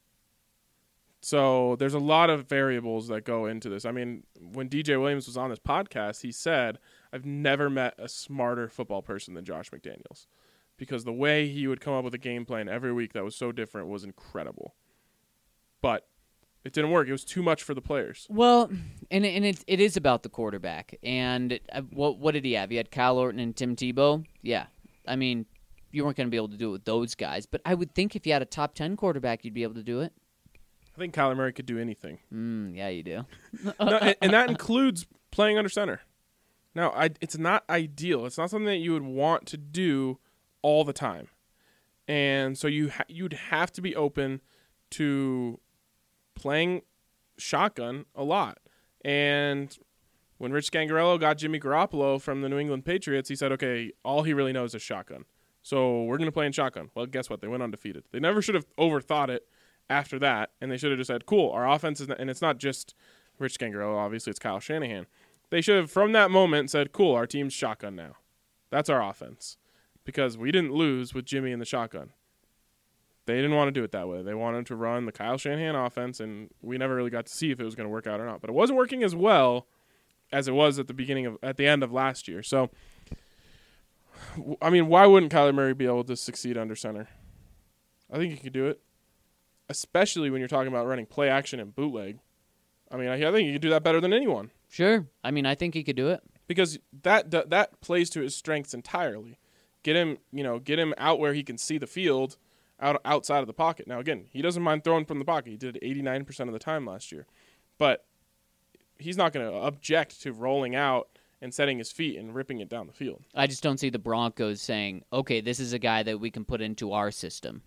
So there's a lot of variables that go into this. I mean, when D J Williams was on this podcast, he said, "I've never met a smarter football person than Josh McDaniels," because the way he would come up with a game plan every week that was so different was incredible. But it didn't work. It was too much for the players. Well, and and it it is about the quarterback. And uh, what what did he have? He had Kyle Orton and Tim Tebow. Yeah, I mean, you weren't going to be able to do it with those guys. But I would think if you had a top ten quarterback, you'd be able to do it. I think Kyler Murray could do anything. Mm, yeah, you do. No, and, and that includes playing under center. Now, I, it's not ideal. It's not something that you would want to do all the time. And so you ha- you'd have to be open to playing shotgun a lot. And when Rich Scangarello got Jimmy Garoppolo from the New England Patriots, he said, okay, all he really knows is shotgun. So we're going to play in shotgun. Well, guess what? They went undefeated. They never should have overthought it after that, and they should have just said, cool, our offense is, not, and it's not just Rich Scangarello, obviously it's Kyle Shanahan. They should have, from that moment, said, cool, our team's shotgun now. That's our offense. Because we didn't lose with Jimmy in the shotgun. They didn't want to do it that way. They wanted to run the Kyle Shanahan offense, and we never really got to see if it was going to work out or not. But it wasn't working as well as it was at the beginning of, at the end of last year. So, I mean, why wouldn't Kyler Murray be able to succeed under center? I think he could do it. Especially when you're talking about running play action and bootleg. I mean, I, I think he could do that better than anyone. Sure. I mean, I think he could do it. Because that, that that plays to his strengths entirely. Get him, you know, get him out where he can see the field, out outside of the pocket. Now, again, he doesn't mind throwing from the pocket. He did it eighty-nine percent of the time last year. But he's not going to object to rolling out and setting his feet and ripping it down the field. I just don't see the Broncos saying, okay, this is a guy that we can put into our system.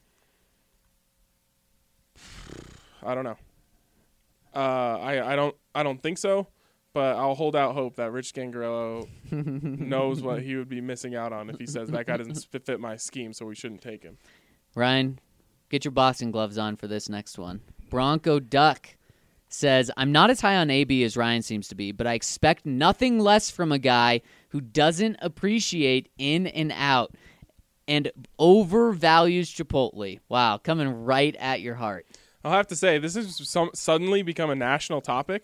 I don't know. Uh, I, I don't I don't think so, but I'll hold out hope that Rich Scangarello knows what he would be missing out on if he says that guy doesn't fit my scheme, so we shouldn't take him. Ryan, get your boxing gloves on for this next one. Bronco Duck says, I'm not as high on A B as Ryan seems to be, but I expect nothing less from a guy who doesn't appreciate in and out and overvalues Chipotle. Wow, coming right at your heart. I'll have to say, this has some, suddenly become a national topic,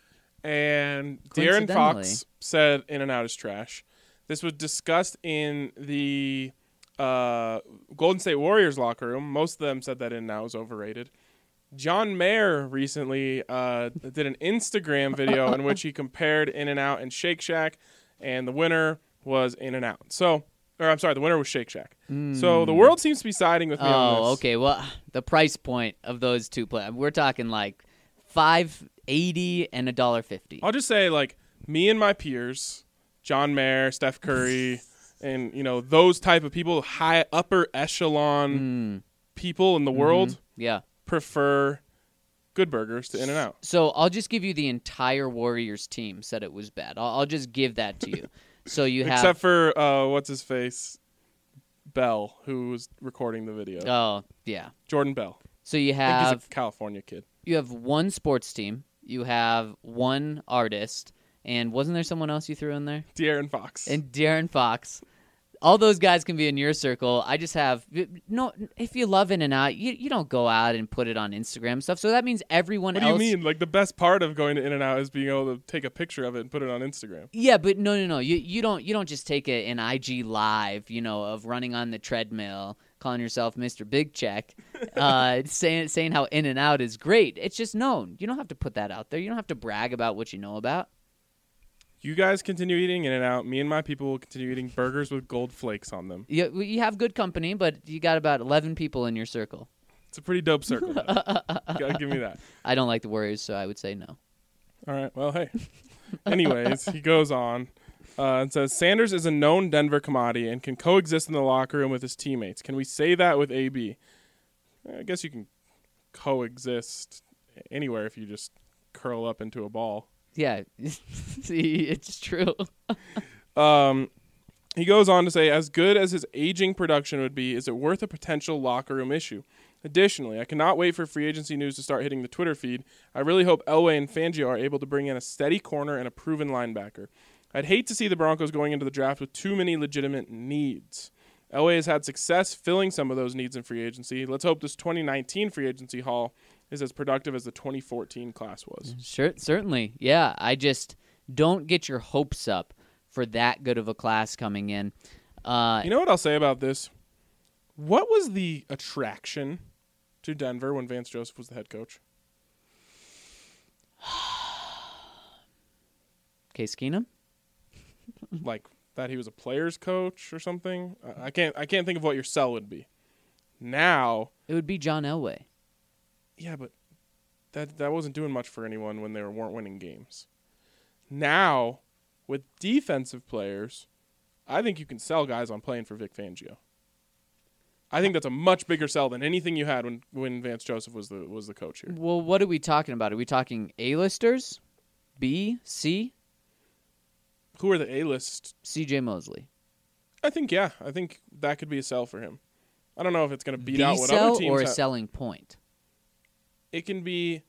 and De'Aaron Fox said In-N-Out is trash. This was discussed in the uh, Golden State Warriors locker room. Most of them said that In-N-Out was overrated. John Mayer recently uh, did an Instagram video in which he compared In-N-Out and Shake Shack, and the winner was In-N-Out. So... Or I'm sorry, the winner was Shake Shack. Mm. So the world seems to be siding with me oh, on this. Oh, okay. Well, the price point of those two play, we're talking like five eighty and a dollar fifty. I'll just say, like, me and my peers, John Mayer, Steph Curry, and you know those type of people, high upper echelon mm. people in the mm-hmm. world, yeah, prefer Good Burgers to In-N-Out. So I'll just give you the entire Warriors team said it was bad. I'll, I'll just give that to you. So you have, except for uh, what's his face, Bell, who was recording the video. Oh yeah, Jordan Bell. So you have, I think he's a California kid. You have one sports team. You have one artist, and wasn't there someone else you threw in there? De'Aaron Fox. And De'Aaron Fox. All those guys can be in your circle. I just have no. If you love In-N-Out, you you don't go out and put it on Instagram stuff. So that means everyone what else. What do you mean? Like the best part of going to In-N-Out is being able to take a picture of it and put it on Instagram. Yeah, but no, no, no. You you don't you don't just take a, an I G live, you know, of running on the treadmill, calling yourself Mister Big Check, uh, saying saying how In-N-Out is great. It's just known. You don't have to put that out there. You don't have to brag about what you know about. You guys continue eating In-N-Out. Me and my people will continue eating burgers with gold flakes on them. You, you have good company, but you got about eleven people in your circle. It's a pretty dope circle. You gotta give me that. I don't like the Warriors, so I would say no. All right. Well, hey. Anyways, he goes on. Uh, it says Sanders is a known Denver commodity and can coexist in the locker room with his teammates. Can we say that with A B? I guess you can coexist anywhere if you just curl up into a ball. Yeah, see, it's true. Um, he goes on to say, as good as his aging production would be, is it worth a potential locker room issue? Additionally, I cannot wait for free agency news to start hitting the Twitter feed. I really hope Elway and Fangio are able to bring in a steady corner and a proven linebacker. I'd hate to see the Broncos going into the draft with too many legitimate needs. Elway has had success filling some of those needs in free agency. Let's hope this twenty nineteen free agency haul is as productive as the twenty fourteen class was. Sure, certainly. Yeah, I just don't get your hopes up for that good of a class coming in. Uh, You know what I'll say about this? What was the attraction to Denver when Vance Joseph was the head coach? Case Keenum? Like that he was a player's coach or something? I I can't I can't think of what your sell would be. Now, It would be John Elway. yeah, but that that wasn't doing much for anyone when they were, weren't winning games. Now, with defensive players, I think you can sell guys on playing for Vic Fangio. I think that's a much bigger sell than anything you had when, when Vance Joseph was the was the coach here. Well, what are we talking about? Are we talking A-listers? B? C? Who are the A-list? C J Mosley. I think, yeah. I think that could be a sell for him. I don't know if it's going to beat the out what sell other teams or a have. selling point? It can be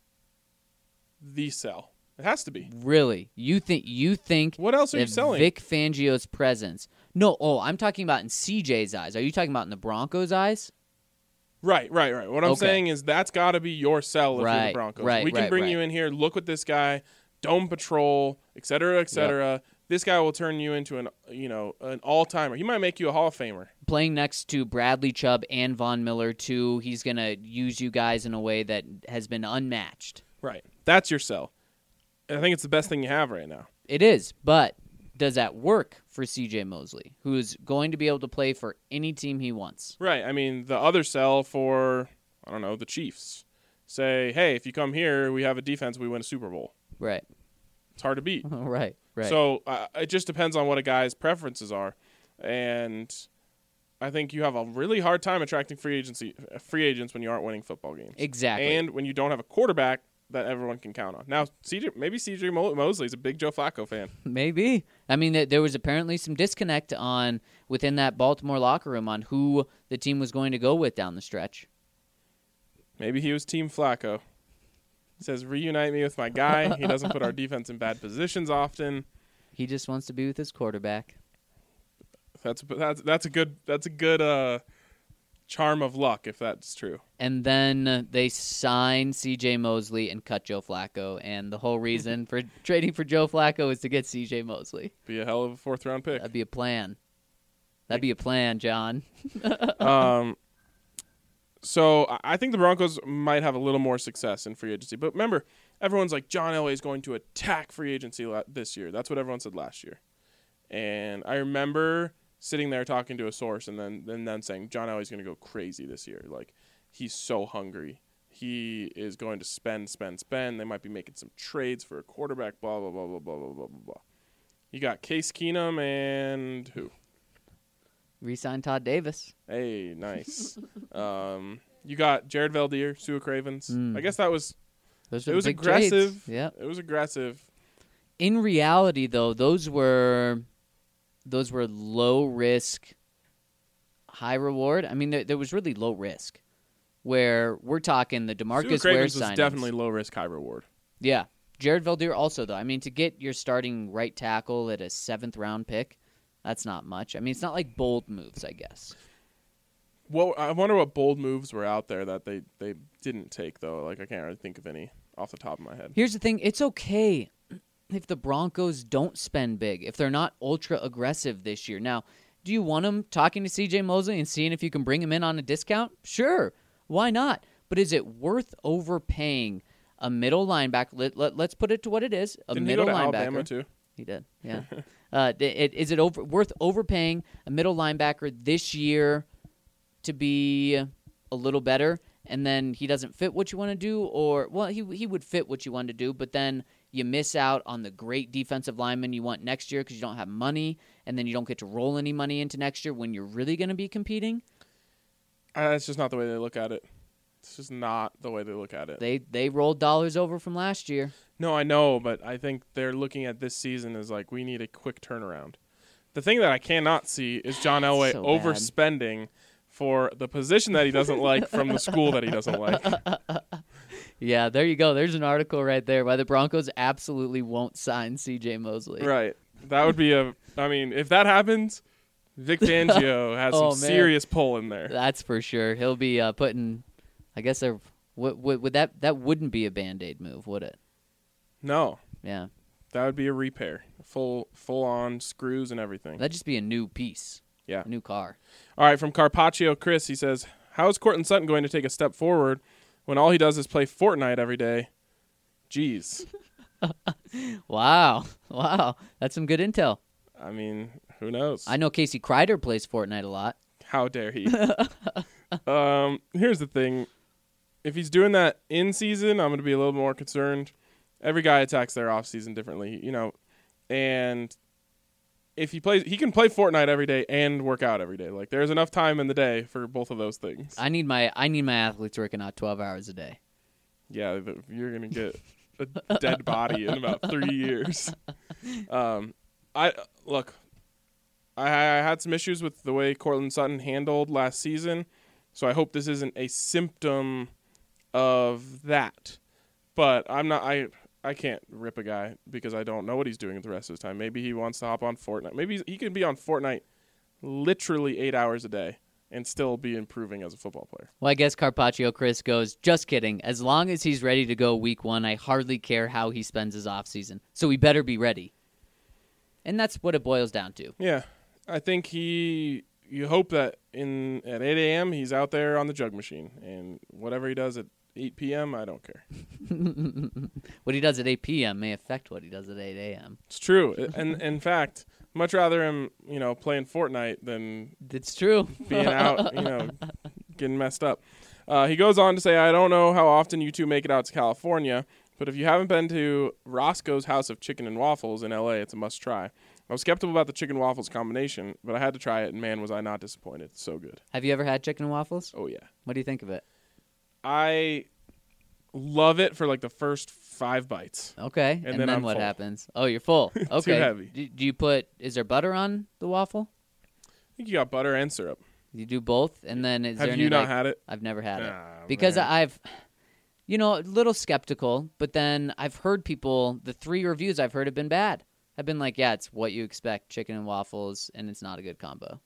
the sell. It has to be. Really? You think you think What else are you that selling? Vic Fangio's presence? No, oh, I'm talking about in C J's eyes. Are you talking about in the Broncos' eyes? Right, right, right. What I'm Okay. saying is that's got to be your sell if you're Right, the Broncos. right, we can right, bring right. you in here, look with this guy, dome patrol, et cetera, et cetera. This guy will turn you into an, you know, an all-timer. He might make you a Hall of Famer. Playing next to Bradley Chubb and Von Miller too, he's going to use you guys in a way that has been unmatched. Right. That's your sell. And I think it's the best thing you have right now. It is, but does that work for C J Mosley, who's going to be able to play for any team he wants? Right. I mean, the other sell for, I don't know, the Chiefs. Say, hey, if you come here, we have a defense, we win a Super Bowl. Right. It's hard to beat. right, right. So uh, it just depends on what a guy's preferences are. And I think you have a really hard time attracting free agency free agents when you aren't winning football games. Exactly. And when you don't have a quarterback that everyone can count on. Now, C J, maybe C J Mo- Mosley's a big Joe Flacco fan. Maybe. I mean, th- there was apparently some disconnect on within that Baltimore locker room on who the team was going to go with down the stretch. Maybe he was Team Flacco. He says, reunite me with my guy. He doesn't put our defense in bad positions often. He just wants to be with his quarterback. That's that's that's a good that's a good uh, charm of luck if that's true. And then they sign C J Mosley and cut Joe Flacco. And the whole reason for trading for Joe Flacco is to get C J Mosley. Be a hell of a fourth round pick. That'd be a plan. That'd be a plan, John. um, so I- I think the Broncos might have a little more success in free agency. But remember, everyone's like, John Elway is going to attack free agency la- this year. That's what everyone said last year. And I remember sitting there talking to a source and then and then saying, John Elway's going to go crazy this year. Like, he's so hungry. He is going to spend, spend, spend. They might be making some trades for a quarterback, blah, blah, blah, blah, blah, blah, blah, blah, blah. You got Case Keenum and who? Resign Todd Davis. Hey, nice. um, you got Jared Valdir, Sua Cravens. Mm. I guess that was Those it were was big aggressive. trades. Yep. It was aggressive. In reality, though, those were those were low risk, high reward. I mean, there, there was really low risk. Where we're talking the Sua DeMarcus Ware Cravens was signings. definitely low risk, high reward. Yeah. Jared Valdir also, though. I mean, to get your starting right tackle at a seventh round pick, that's not much. I mean, it's not like bold moves, I guess. Well, I wonder what bold moves were out there that they, they didn't take though. Like I can't really think of any off the top of my head. Here's the thing. It's okay if the Broncos don't spend big, if they're not ultra aggressive this year. Now, do you want them talking to C J Mosley and seeing if you can bring him in on a discount? Sure. Why not? But is it worth overpaying a middle linebacker? Let, let, let's put it to what it is. A Didn't middle he go to linebacker. Alabama too? He did, yeah. uh, it, is it over, worth overpaying a middle linebacker this year to be a little better, and then he doesn't fit what you want to do? Or, well, he he would fit what you want to do, but then you miss out on the great defensive lineman you want next year because you don't have money, and then you don't get to roll any money into next year when you're really going to be competing. Uh, that's just not the way they look at it. It's just not the way they look at it. They they rolled dollars over from last year. No, I know, but I think they're looking at this season as like, we need a quick turnaround. The thing that I cannot see is John Elway So overspending for the position that he doesn't like from the school that he doesn't like. Yeah, there you go. There's an article right there why the Broncos absolutely won't sign C J Mosley. Right. That would be a, I mean, if that happens, Vic Fangio has Oh, some man. serious pull in there. That's for sure. He'll be uh, putting, I guess, there. Would, would, would that that wouldn't be a Band-Aid move, would it? No, Yeah, that would be a repair. Full full on screws and everything. that'd just be a new piece. Yeah. A new car. All right, from Carpaccio Chris, he says, how is Cortland Sutton going to take a step forward when all he does is play Fortnite every day? Jeez. Wow, wow, that's some good intel. I mean, who knows? I know Casey Kreider plays Fortnite a lot. How dare he? um, here's the thing. If he's doing that in season, I'm going to be a little more concerned. Every guy attacks their off season differently, you know. And if he plays, he can play Fortnite every day and work out every day. Like, there's enough time in the day for both of those things. I need my I need my athletes working out twelve hours a day. Yeah, the, you're going to get a dead body in about three years. Um, I look, I, I had some issues with the way Cortland Sutton handled last season, so I hope this isn't a symptom of that. But I'm not. I I can't rip a guy because I don't know what he's doing the rest of his time. Maybe he wants to hop on Fortnite. Maybe he's, he can be on Fortnite literally eight hours a day and still be improving as a football player. Well, I guess Carpaccio Chris goes, just kidding. As long as he's ready to go week one, I hardly care how he spends his offseason. So he better be ready. And that's what it boils down to. Yeah, I think he. You hope that in at eight a.m. he's out there on the jug machine, and whatever he does at eight p.m. I don't care. What he does at eight p.m. may affect what he does at eight a.m. It's true, and in fact, much rather him, you know, playing Fortnite than It's true. being out, you know, getting messed up. Uh, he goes on to say, I don't know how often you two make it out to California, but if you haven't been to Roscoe's House of Chicken and Waffles in L A, it's a must try. I was skeptical about the chicken waffles combination, but I had to try it, and man, was I not disappointed. It's so good. Have you ever had chicken and waffles? Oh, yeah. What do you think of it? I love it for like the first five bites. Okay. And, then then I'm what full. happens? Oh, you're full. Okay. heavy. Do, do you put, is there butter on the waffle? I think you got butter and syrup. You do both? And then is Have there you any, not like- had it? I've never had it. Ah, Because man. I've, you know, a little skeptical, but then I've heard people, the three reviews I've heard have been bad. I've been like, yeah, it's what you expect, chicken and waffles, and it's not a good combo.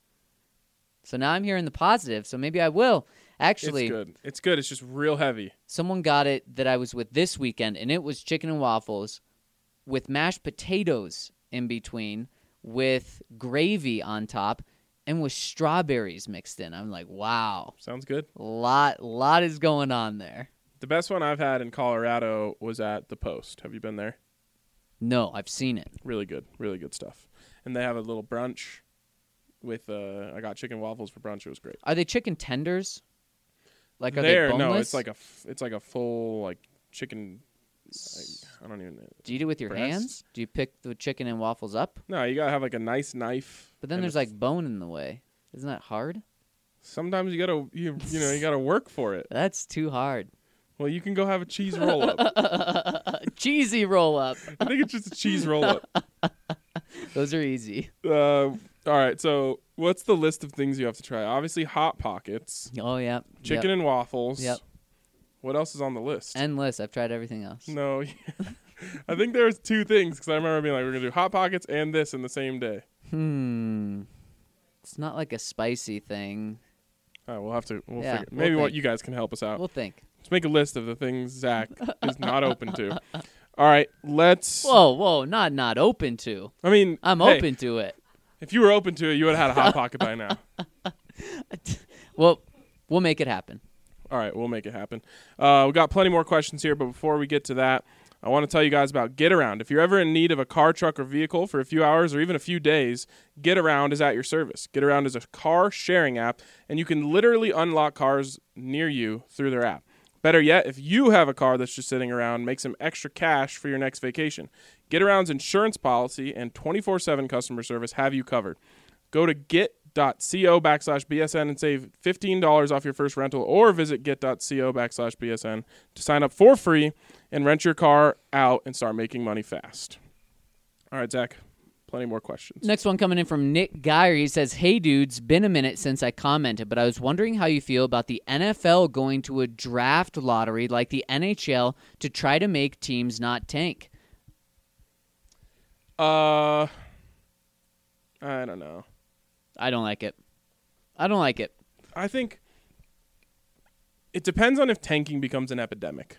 So now I'm hearing the positive, so maybe I will. Actually, It's good. It's good. It's just real heavy. someone got it that I was with this weekend, and it was chicken and waffles with mashed potatoes in between, with gravy on top, and with strawberries mixed in. I'm like, wow, Sounds good. lot, lot is going on there. The best one I've had in Colorado was at the Post. Have you been there? No, I've seen it. Really good. Really good stuff. And they have a little brunch with, uh, I got chicken waffles for brunch. It was great. Are they chicken tenders? Like, are there, they boneless? no, it's like a, f- it's like a full, like, chicken, I, I don't even know. Do you do it with your breast? hands? Do you pick the chicken and waffles up? No, you gotta have like a nice knife. But then and there's a like f- bone in the way. Isn't that hard? sometimes you gotta, you, you know, you gotta work for it. That's too hard. Well, you can go have a cheese roll up. Cheesy roll up. I think it's just a cheese roll up. Those are easy. Uh, all right, so what's the list of things you have to try? Obviously, Hot Pockets, Oh, yeah. chicken Yep. and waffles. Yep. What else is on the list? Endless. I've tried everything else. no, I think there was two things because I remember being like, we're gonna do Hot Pockets and this in the same day. Hmm. It's not like a spicy thing. All right, we'll have to. We'll Yeah, figure. we'll Maybe what think. you guys can help us out. We'll think. Let's make a list of the things Zach is not open to. All right, let's. Whoa, whoa. Not not open to. I mean, I'm hey, open to it. If you were open to it, you would have had a Hot Pocket by now. Well, we'll make it happen. All right, we'll make it happen. Uh, we got plenty more questions here, but before we get to that, I want to tell you guys about Get Around. If you're ever in need of a car, truck, or vehicle for a few hours or even a few days, Get Around is at your service. Get Around is a car sharing app, and you can literally unlock cars near you through their app. Better yet, if you have a car that's just sitting around, make some extra cash for your next vacation. GetAround's insurance policy and twenty-four seven customer service have you covered. Go to get.co backslash BSN and save fifteen dollars off your first rental, or visit get.co backslash BSN to sign up for free and rent your car out and start making money fast. All right, Zach, plenty more questions. Next one coming in from Nick Geyer. He says, hey, dudes, been a minute since I commented, but I was wondering how you feel about the N F L going to a draft lottery like the N H L to try to make teams not tank. Uh, I don't know. I don't like it. I don't like it. I think it depends on if tanking becomes an epidemic.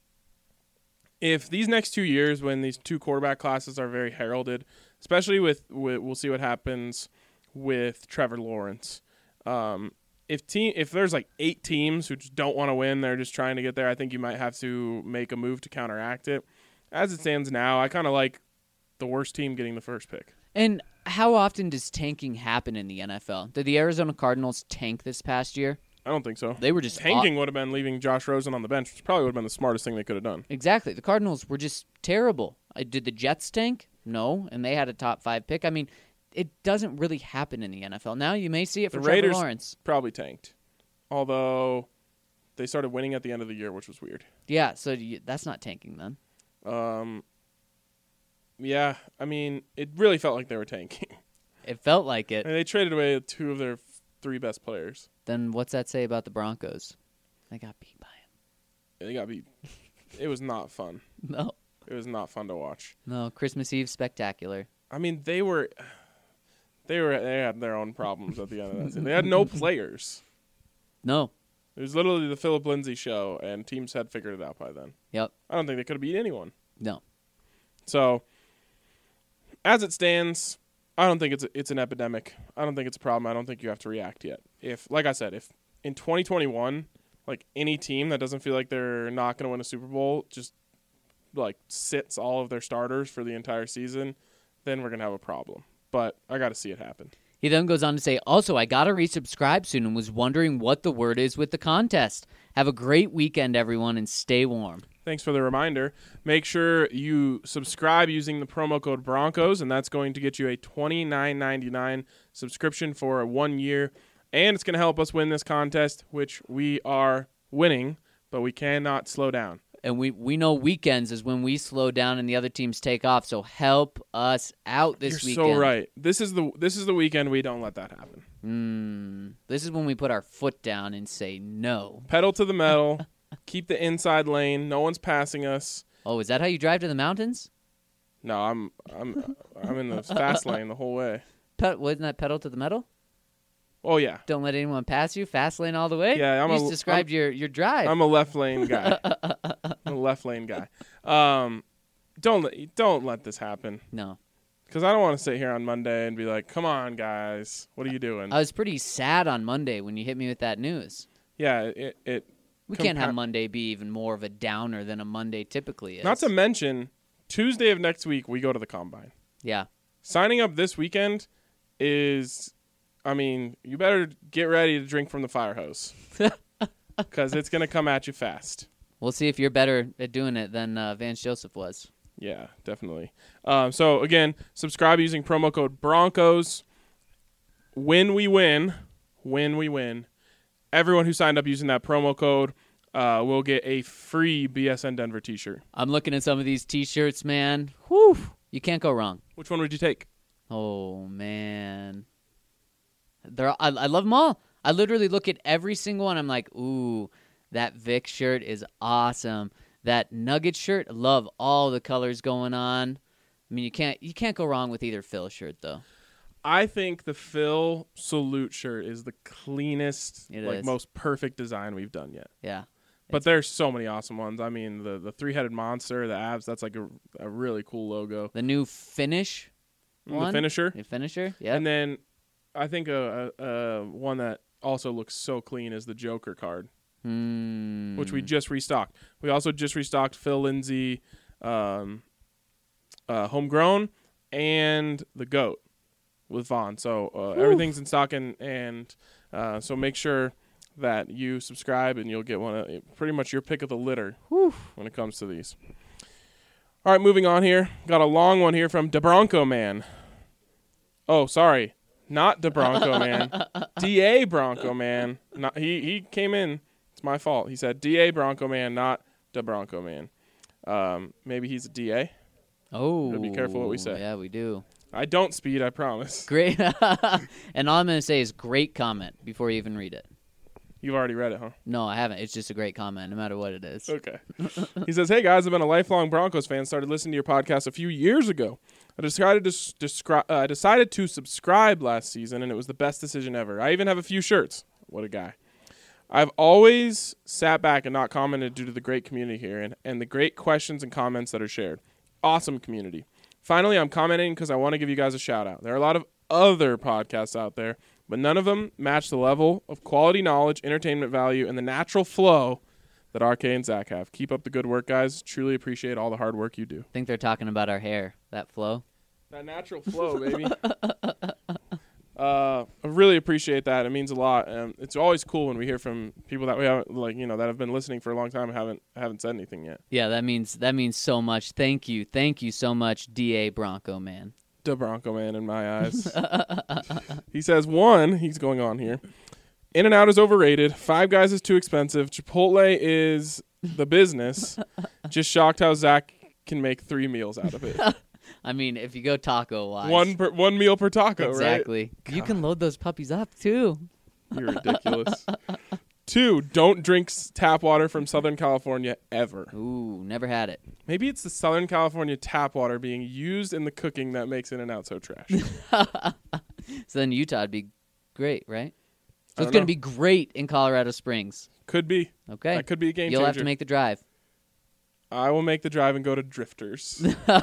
If these next two years, when these two quarterback classes are very heralded, especially with, with we'll see what happens with Trevor Lawrence. Um, if team, if there's like eight teams who just don't want to win, they're just trying to get there, I think you might have to make a move to counteract it. As it stands now, I kind of like the worst team getting the first pick. And how often does tanking happen in the N F L? Did the Arizona Cardinals tank this past year? I don't think so. They were just tanking aw- would have been leaving Josh Rosen on the bench, which probably would have been the smartest thing they could have done. Exactly. The Cardinals were just terrible. Uh, did the Jets tank? No, and they had a top five pick. I mean, it doesn't really happen in the N F L. Now you may see it for the Trevor Raiders Lawrence. Probably tanked, although they started winning at the end of the year, which was weird. Yeah, so you, that's not tanking then. Um, yeah, I mean, it really felt like they were tanking. It felt like it. And they traded away two of their f- three best players. Then what's that say about the Broncos? They got beat by him. They got beat. It was not fun. No. It was not fun to watch. No, Christmas Eve spectacular. I mean, they were, they were, they had their own problems at the end of that season. They had no players. No. It was literally the Philip Lindsay show, and teams had figured it out by then. Yep. I don't think they could have beat anyone. No. So, as it stands, I don't think it's a, it's an epidemic. I don't think it's a problem. I don't think you have to react yet. If, like I said, if in twenty twenty-one, like any team that doesn't feel like they're not going to win a Super Bowl just like sits all of their starters for the entire season, then we're going to have a problem. But I got to see it happen. He then goes on to say, also, I got to resubscribe soon and was wondering what the word is with the contest. Have a great weekend, everyone, and stay warm. Thanks for the reminder. Make sure you subscribe using the promo code Broncos, and that's going to get you a twenty-nine ninety-nine subscription for one year. And it's going to help us win this contest, which we are winning, but we cannot slow down. And we, we know weekends is when we slow down and the other teams take off, so help us out this You're weekend. so right. This is the this is the weekend we don't let that happen. Mm, this is when we put our foot down and say no. Pedal to the metal. Keep the inside lane. No one's passing us. Oh, is that how you drive to the mountains? No, I'm I'm I'm in the fast lane the whole way. Pe- wasn't that pedal to the metal? Oh yeah. Don't let anyone pass you. Fast lane all the way. Yeah, I'm you a- just described I'm- your your drive. I'm a left lane guy. I'm a left lane guy. Um, don't let don't let this happen. no, Because I don't want to sit here on Monday and be like, "Come on, guys, what are you doing?" I was pretty sad on Monday when you hit me with that news. yeah, it. it We can't have compa- Monday be even more of a downer than a Monday typically is. Not to mention, Tuesday of next week we go to the combine. yeah. Signing up this weekend is, I mean, you better get ready to drink from the fire hose because it's gonna come at you fast. We'll see if you're better at doing it than uh, Vance Joseph was. Yeah, definitely. Um, so, again, subscribe using promo code Broncos. When we win, when we win, everyone who signed up using that promo code uh, will get a free B S N Denver t-shirt. I'm looking at some of these T-shirts, man. Whew, you can't go wrong. Which one would you take? Oh man, they're I, I love them all. I literally look at every single one. I'm like, ooh, that Vic shirt is awesome. That Nugget shirt, I love all the colors going on. I mean, you can't you can't go wrong with either Phil shirt though. I think the Phil Salute shirt is the cleanest, It like is. most perfect design we've done yet. Yeah, But there's so many awesome ones. I mean, the, the three-headed monster, the abs, that's like a, a really cool logo. the new finish Mm, one, The finisher. the finisher. Yeah, And then I think a, a, a one that also looks so clean is the Joker card, Hmm. which we just restocked. We also just restocked Phil Lindsay, um, uh, Homegrown, and the GOAT with Vaughn. So uh, everything's in stock, and, and uh, so make sure that you subscribe, and you'll get one of pretty much your pick of the litter Whew. when it comes to these. All right, moving on here. Got a long one here from DeBronco Man. Oh, sorry. Not DeBronco Man. D A Bronco Man. Not, he, he came in. It's my fault. He said D A Bronco Man, not DeBronco Man. Um, maybe he's a D A. Oh. Gotta be careful what we say. Yeah, we do. I don't speed, I promise. Great. And all I'm going to say is great comment before you even read it. You've already read it, huh? No, I haven't. It's just a great comment, no matter what it is. Okay. He says, hey, guys, I've been a lifelong Broncos fan. Started listening to your podcast a few years ago. I decided to s- descri- uh, I decided to subscribe last season, and it was the best decision ever. I even have a few shirts. What a guy. I've always sat back and not commented due to the great community here and, and the great questions and comments that are shared. Awesome community. Finally, I'm commenting because I want to give you guys a shout-out. There are a lot of other podcasts out there, but none of them match the level of quality knowledge, entertainment value, and the natural flow that R K and Zach have. Keep up the good work, guys. Truly appreciate all the hard work you do. I think they're talking about our hair, that flow. That natural flow, baby. uh, I really appreciate that. It means a lot. Um, it's always cool when we hear from people that we haven't, like, you know, that have been listening for a long time and haven't haven't said anything yet. Yeah, that means that means so much. Thank you, thank you so much, D A Bronco Man. The Bronco Man in my eyes. He says, one, he's going on here. In-N-Out is overrated. Five Guys is too expensive. Chipotle is the business. Just shocked how Zach can make three meals out of it. I mean, if you go taco-wise. One per, one meal per taco, exactly. right? You can load those puppies up, too. You're ridiculous. Two, don't drink s- tap water from Southern California ever. Ooh, never had it. Maybe it's the Southern California tap water being used in the cooking that makes In-N-Out so trash. So then Utah would be great, right? So I it's don't going to be great in Colorado Springs. Could be. Okay. That could be a game You'll changer. have to make the drive. I will make the drive and go to Drifters.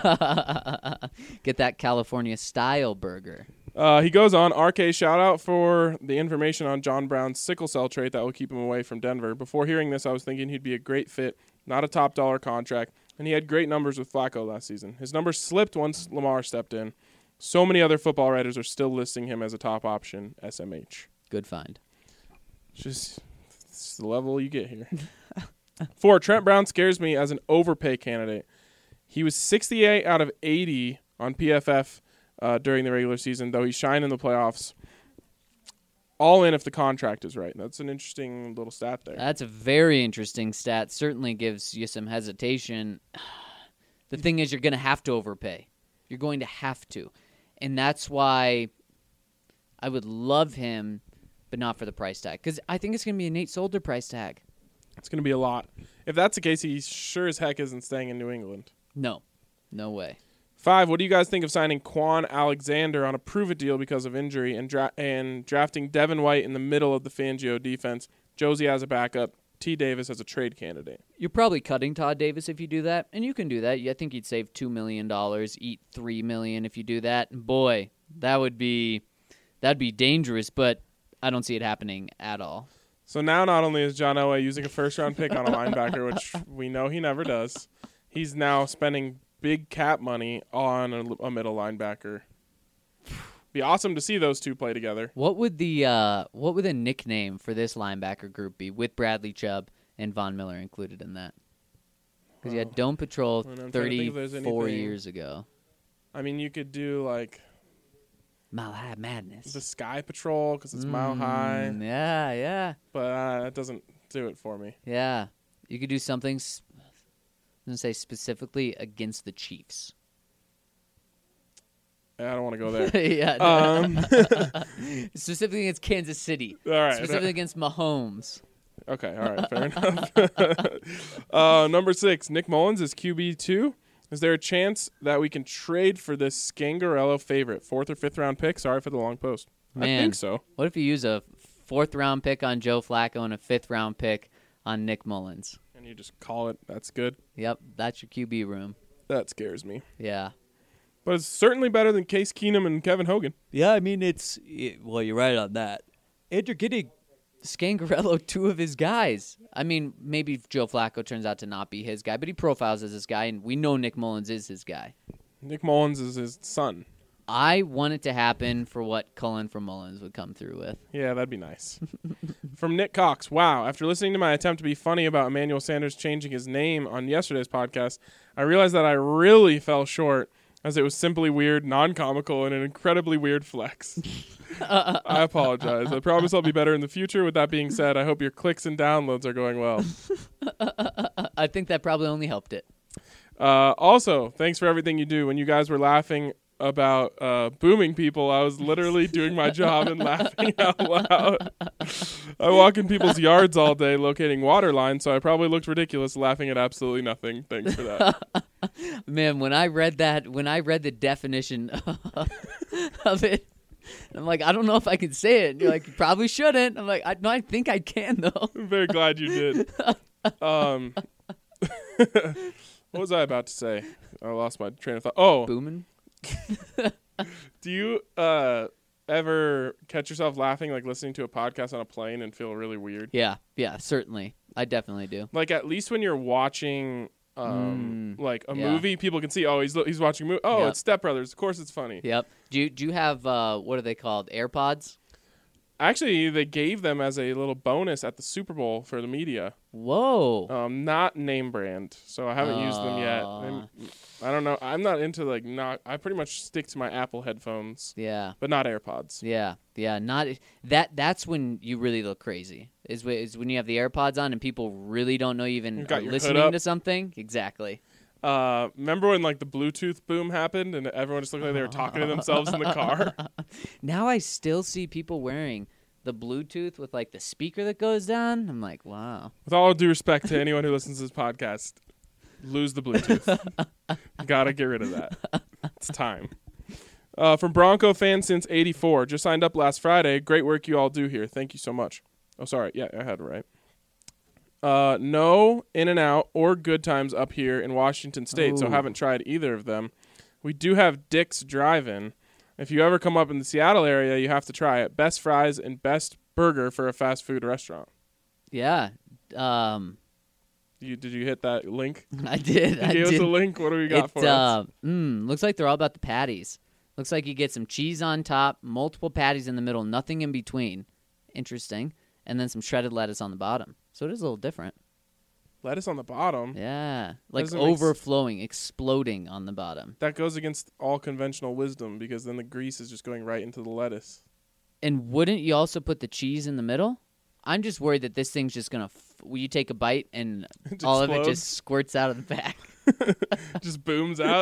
Get that California style burger. Uh, he goes on, R K, shout out for the information on John Brown's sickle cell trait that will keep him away from Denver. Before hearing this, I was thinking he'd be a great fit, not a top dollar contract, and he had great numbers with Flacco last season. His numbers slipped once Lamar stepped in. So many other football writers are still listing him as a top option, S M H. Good find. It's just it's the level you get here. Four, Trent Brown scares me as an overpay candidate. He was sixty-eight out of eighty on P F F uh, during the regular season, though he shined in the playoffs. All in if the contract is right. That's an interesting little stat there. That's a very interesting stat. Certainly gives you some hesitation. The thing is, you're going to have to overpay. You're going to have to. And that's why I would love him, but not for the price tag. Because I think it's going to be a Nate Solder price tag. It's going to be a lot. If that's the case, he sure as heck isn't staying in New England. No. No way. Five, what do you guys think of signing Quan Alexander on a prove-it deal because of injury and dra- and drafting Devin White in the middle of the Fangio defense? Josie as a backup, T. Davis as a trade candidate. You're probably cutting Todd Davis if you do that, and you can do that. I think you'd save two million dollars, eat three million dollars if you do that. And boy, that would be that'd be dangerous, but I don't see it happening at all. So now not only is John Elway using a first-round pick on a linebacker, which we know he never does, he's now spending big cap money on a, a middle linebacker. Be awesome to see those two play together. What would the uh, what would the nickname for this linebacker group be with Bradley Chubb and Von Miller included in that? Because you had Dome Patrol And I'm trying to think if there's thirty-four anything- years ago. I mean, you could do, like, Mile High Madness. the Sky Patrol because it's mile high, Mm, yeah, yeah, but uh, that doesn't do it for me. yeah. You could do something. s- I was gonna say specifically against the Chiefs. I don't want to go there. yeah. Um, Specifically against Kansas City. all right. Specifically against Mahomes. Okay, all right, fair enough. uh, number six, Nick Mullins is Q B two. Is there a chance that we can trade for this Scangarello favorite, fourth or fifth round pick? Sorry for the long post. I Man. think so. What if you use a fourth round pick on Joe Flacco and a fifth round pick on Nick Mullins? And you just call it, that's good. Yep, that's your Q B room. That scares me. Yeah. But it's certainly better than Case Keenum and Kevin Hogan. Yeah, I mean, it's it, well, you're right on that. And you're getting Scangarello, two of his guys. I mean, maybe Joe Flacco turns out to not be his guy, but he profiles as his guy, and we know Nick Mullins is his guy. Nick Mullins is his son. I want it to happen for what Cullen from Mullins would come through with. Yeah, that'd be nice. from Nick Cox. Wow. After listening to my attempt to be funny about Emmanuel Sanders changing his name on yesterday's podcast, I realized that I really fell short, as it was simply weird, non-comical, and an incredibly weird flex. I apologize. I promise I'll be better in the future. With that being said, I hope your clicks and downloads are going well. I think that probably only helped it. Uh, also, thanks for everything you do. When you guys were laughing about uh, booming people, I was literally doing my job and laughing out loud. I walk in people's yards all day locating water lines, so I probably looked ridiculous laughing at absolutely nothing. Thanks for that. Man, when I read that, when I read the definition of it, I'm like, I don't know if I can say it. And you're like, you probably shouldn't. I'm like, I, no, I think I can, though. I'm very glad you did. Um, what was I about to say? I lost my train of thought. Oh, Booming. Do you uh, ever catch yourself laughing, like listening to a podcast on a plane and feel really weird? Yeah, yeah, certainly. I definitely do. Like at least when you're watching um, Mm, like a yeah. movie, people can see, oh, he's he's watching a movie. Oh, Yep. it's Step Brothers. Of course it's funny. Yep. Do you, do you have, uh, what are they called, AirPods? Actually, they gave them as a little bonus at the Super Bowl for the media. Whoa. Um, not name brand, so I haven't used them yet. Uh. I'm- I don't know. I'm not into like not. I pretty much stick to my Apple headphones, Yeah. but not AirPods. Yeah, yeah, not that. That's when you really look crazy. Is, wh- is when you have the AirPods on and people really don't know you even You've got are your hood listening up. to something. Exactly. Uh, remember when like the Bluetooth boom happened and everyone just looked like they were talking to themselves in the car? Now I still see people wearing the Bluetooth with like the speaker that goes down. I'm like, wow. With all due respect to anyone who listens to this podcast, lose the Bluetooth. Gotta get rid of that. It's time. Uh, from Bronco fan since eighty-four. Just signed up last Friday. Great work you all do here. Thank you so much. Oh, sorry. Yeah, I had it right. Uh, no In-N-Out or Good Times up here in Washington State, so Ooh. haven't tried either of them. We do have Dick's Drive-In. If you ever come up in the Seattle area, you have to try it. Best fries and best burger for a fast food restaurant. Yeah. Um, You, did you hit that link? I did. You I gave us did. a link. What do we got It, for us? uh, mm, looks like they're all about the patties. Looks like you get some cheese on top, multiple patties in the middle, nothing in between. Interesting. And then some shredded lettuce on the bottom. So it is a little different. Lettuce on the bottom. Yeah. Like doesn't make s- overflowing, exploding on the bottom. That goes against all conventional wisdom because then the grease is just going right into the lettuce. And wouldn't you also put the cheese in the middle? I'm just worried that this thing's just going to, f- will you take a bite and It all of it explodes. just squirts out of the back? Just booms out.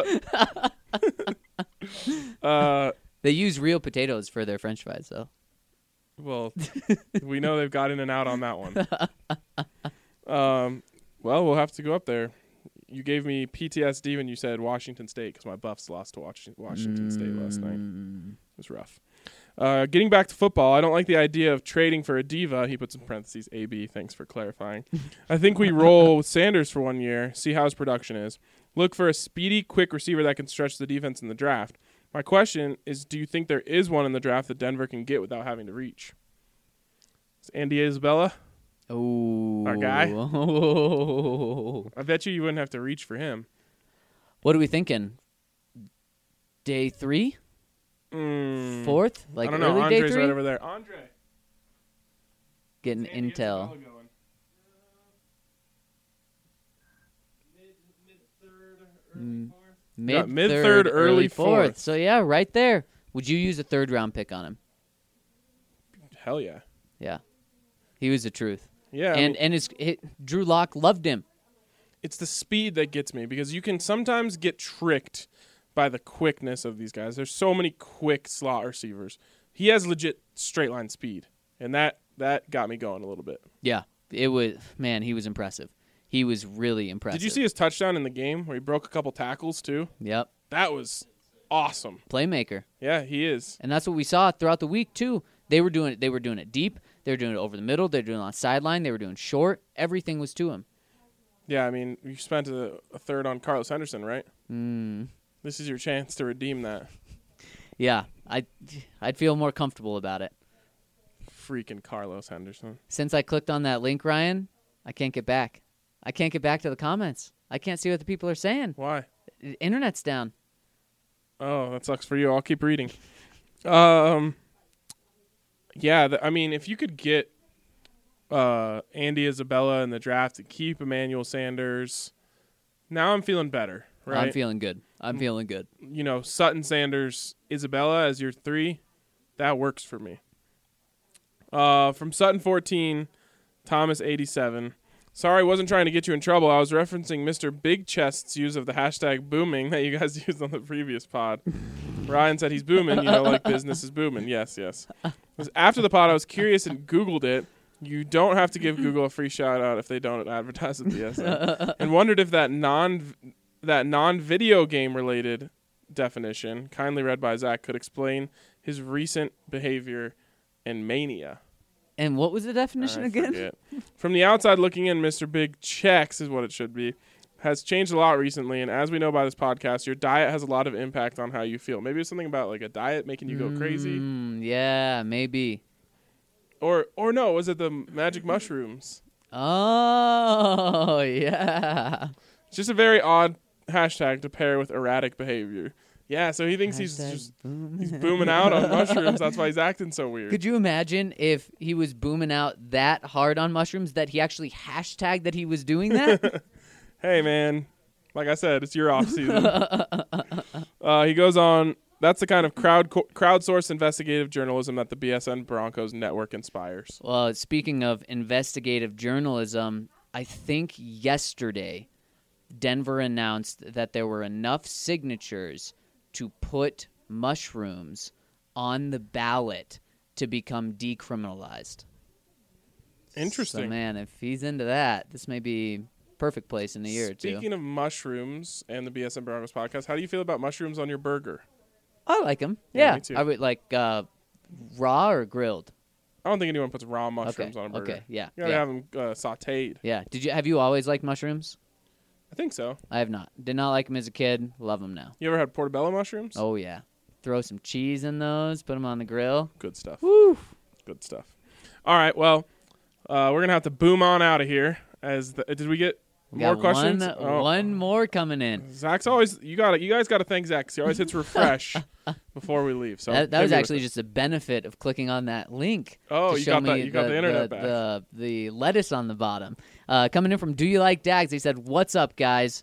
uh, They use real potatoes for their french fries, though. well, we know they've got in and out on that one. Um, well, we'll have to go up there. You gave me P T S D when you said Washington State because my Buffs lost to Wash- Washington State last night. Mm. It was rough. Uh, getting back to football, I don't like the idea of trading for a diva. He puts in parentheses A B. Thanks for clarifying. I think we roll with Sanders for one year, see how his production is. Look for a speedy, quick receiver that can stretch the defense in the draft. My question is, do you think there is one in the draft that Denver can get without having to reach? Is Andy Isabella? Oh. Our guy? Oh. I bet you you wouldn't have to reach for him. What are we thinking? Day three? Mm, Fourth? Like I don't know. early Andre's day three? right over there. Andre. Getting Andy intel. Isabella going. Mm. Yeah, Mid mid-third, third, early fourth. fourth. So yeah, right there. Would you use a third round pick on him? Hell yeah. Yeah. He was the truth. Yeah. I and mean, and his, his Drew Lock loved him. it's the speed that gets me because you can sometimes get tricked by the quickness of these guys. There's so many quick slot receivers. He has legit straight line speed, and that that got me going a little bit. Yeah. It was man, he was impressive. He was really impressive. Did you see his touchdown in the game where he broke a couple tackles too? Yep. That was awesome. Playmaker. Yeah, he is. And that's what we saw throughout the week too. They were doing it they were doing it deep, they were doing it over the middle, they were doing it on sideline, they were doing short. Everything was to him. Yeah, I mean, you spent a, a third on Carlos Henderson, right? Mm. This is your chance to redeem that. Yeah. I I'd feel more comfortable about it. Freaking Carlos Henderson. Since I clicked on that link, Ryan, I can't get back. I can't get back to the comments. I can't see what the people are saying. Why? The internet's down. Oh, that sucks for you. I'll keep reading. Um, yeah, th- I mean, if you could get uh, Andy Isabella in the draft to keep Emmanuel Sanders. Now I'm feeling better, right? I'm feeling good. I'm feeling good. You know, Sutton, Sanders, Isabella as your three. That works for me. Uh, from Sutton fourteen, Thomas eighty-seven. Sorry, wasn't trying to get you in trouble. I was referencing Mister Big Chest's use of the hashtag booming that you guys used on the previous pod. Ryan said he's booming, you know, like business is booming. Yes, yes. After the pod, I was curious and Googled it. You don't have to give Google a free shout out if they don't advertise at the S M. And wondered if that non that non-video game related definition, kindly read by Zach, could explain his recent behavior and mania. And what was the definition I again? forget. From the outside looking in, Mister Big Checks is what it should be. Has changed a lot recently, and as we know by this podcast, your diet has a lot of impact on how you feel. Maybe it's something about like a diet making you go crazy, Mm, yeah, maybe. or or no, was it the magic mushrooms? Oh, yeah. It's just a very odd hashtag to pair with erratic behavior. Yeah, so he thinks he's Hashtag just boom. he's booming out on mushrooms. That's why he's acting so weird. Could you imagine if he was booming out that hard on mushrooms that he actually hashtagged that he was doing that? Hey, man. Like I said, it's your off season. uh, he goes on. That's the kind of crowd co- crowdsourced investigative journalism that the B S N Broncos network inspires. Well, speaking of investigative journalism, I think yesterday Denver announced that there were enough signatures to put mushrooms on the ballot to become decriminalized. Interesting. So, man, if he's into that, this may be perfect place in a year or two. Speaking of mushrooms and the B S N Broncos podcast, how do you feel about mushrooms on your burger? I like them. Yeah, Yeah, me too. I would like uh, raw or grilled. I don't think anyone puts raw mushrooms Okay, on a burger. okay, yeah, You gotta yeah. have them uh, sauteed. Yeah. Did you have you always liked mushrooms? I think so. I have not. Did not like them as a kid. Love them now. You ever had portobello mushrooms? Oh yeah. Throw some cheese in those. Put them on the grill. Good stuff. Woo. Good stuff. All right, well, uh, we're gonna have to boom on out of here. As the, did we get We more got questions? One, Oh. one more coming in. Zach's always you got You guys got to thank Zach. 'Cause he always hits refresh before we leave. So that that hit was me with actually it. just a benefit of clicking on that link. Oh, to you show got that- me you got the internet back. The, the lettuce on the bottom. Uh, coming in from Do You Like Dags? They said, "What's up, guys?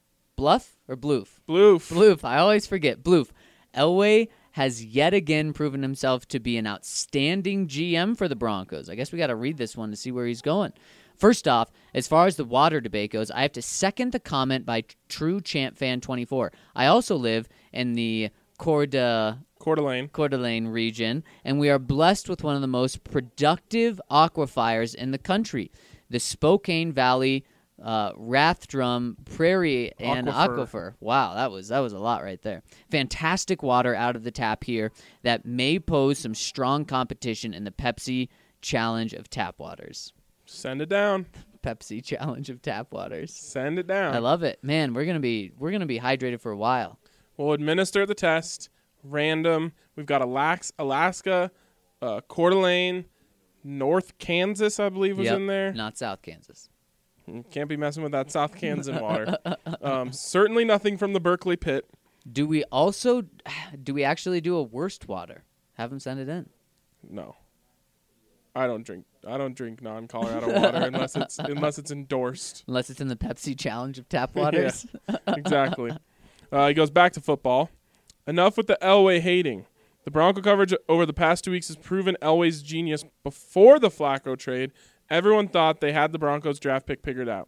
Bluff or Bloof? Bloof. Bloof. I always forget. Bloof. Elway has yet again proven himself to be an outstanding G M for the Broncos. I guess we got to read this one to see where he's going. First off, as far as the water debate goes, I have to second the comment by True Champ Fan twenty-four. I also live in the Corda, Coeur d'Alene. Coeur d'Alene region, and we are blessed with one of the most productive aquifers in the country. The Spokane Valley uh, Rathdrum Prairie and Aquifer. Aquifer. Wow, that was that was a lot right there. Fantastic water out of the tap here that may pose some strong competition in the Pepsi Challenge of Tap Waters. Send it down. Pepsi Challenge of Tap Waters. Send it down. I love it, man. We're gonna be we're gonna be hydrated for a while. We'll administer the test. Random. We've got Alax- Alaska, uh, Coeur d'Alene, North Kansas, I believe, was Yep, in there. not South Kansas. Can't be messing with that South Kansas water. Um, certainly nothing from the Berkeley pit. Do we also do we actually do a worst water? Have them send it in. No. I don't drink. I don't drink non-Colorado water unless it's unless it's endorsed. Unless it's in the Pepsi Challenge of Tap Waters. Exactly. Uh, he goes back to football. Enough with the Elway hating. The Bronco coverage over the past two weeks has proven Elway's genius. Before the Flacco trade, everyone thought they had the Broncos draft pick figured out.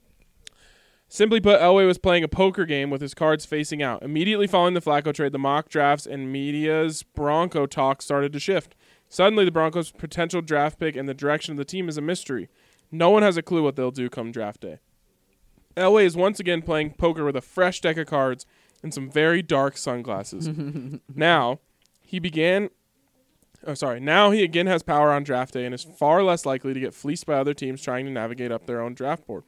Simply put, Elway was playing a poker game with his cards facing out. Immediately following the Flacco trade, the mock drafts and media's Bronco talk started to shift. Suddenly, the Broncos' potential draft pick and the direction of the team is a mystery. No one has a clue what they'll do come draft day. Elway is once again playing poker with a fresh deck of cards and some very dark sunglasses. Now, he began... Oh, sorry. Now he again has power on draft day and is far less likely to get fleeced by other teams trying to navigate up their own draft board.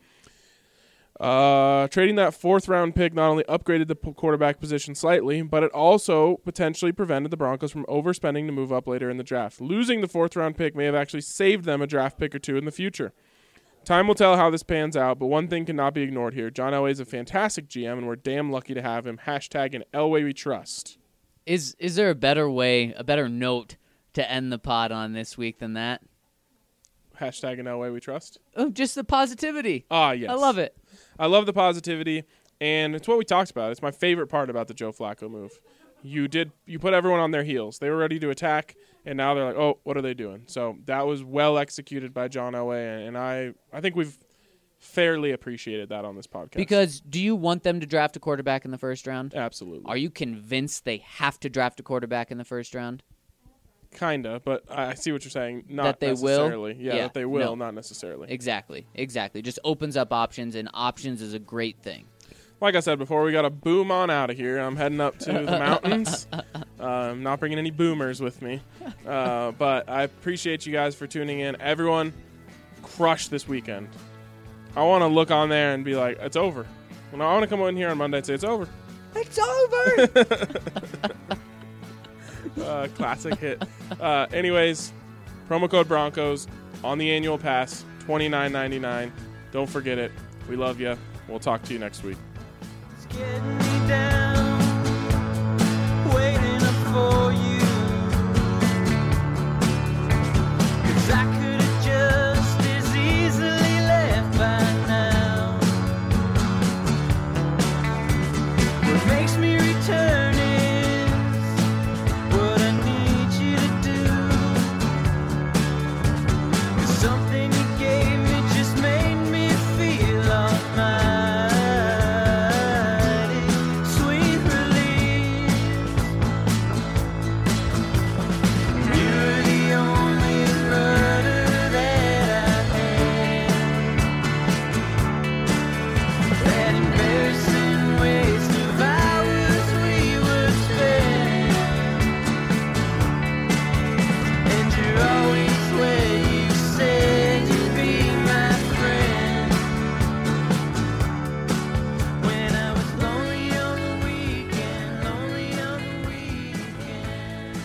Uh, trading that fourth round pick not only upgraded the p- quarterback position slightly, but it also potentially prevented the Broncos from overspending to move up later in the draft. Losing the fourth round pick may have actually saved them a draft pick or two in the future. Time will tell how this pans out, but one thing cannot be ignored here. John Elway is a fantastic G M, and we're damn lucky to have him. Hashtag an Elway we trust. Is is there a better way, a better note to end the pod on this week than that? Hashtag in Elway we trust. Oh, just the positivity. Ah, yes. I love it. I love the positivity, and it's what we talked about. It's my favorite part about the Joe Flacco move. You did you put everyone on their heels. They were ready to attack, and now they're like, oh, what are they doing? So that was well executed by John Elway, and I, I think we've fairly appreciated that on this podcast. Because do you want them to draft a quarterback in the first round? Absolutely. Are you convinced they have to draft a quarterback in the first round? Kinda, but I see what you're saying. Not That they will? necessarily. Yeah, Yeah, that they will, no. not necessarily. Exactly, exactly. Just opens up options, and options is a great thing. Like I said before, we got to boom on out of here. I'm heading up to the mountains. Uh, I'm not bringing any boomers with me. Uh, but I appreciate you guys for tuning in. Everyone, crush this weekend. I want to look on there and be like, it's over. When I want to come in here on Monday and say, it's over. It's over! uh, classic hit. Uh, anyways, promo code Broncos on the annual pass, twenty-nine ninety-nine. Don't forget it. We love you. We'll talk to you next week. It's getting me down, waiting up for you. 'Cause I could have just as easily left by now. What makes me return is what I need you to do. 'Cause something you gave me just made me feel almighty. Sweet relief. You're the only brother that I had. That embarrassing waste of hours we would spend. And you're always where you said you'd be my friend. When I was lonely on the weekend, lonely on the weekend.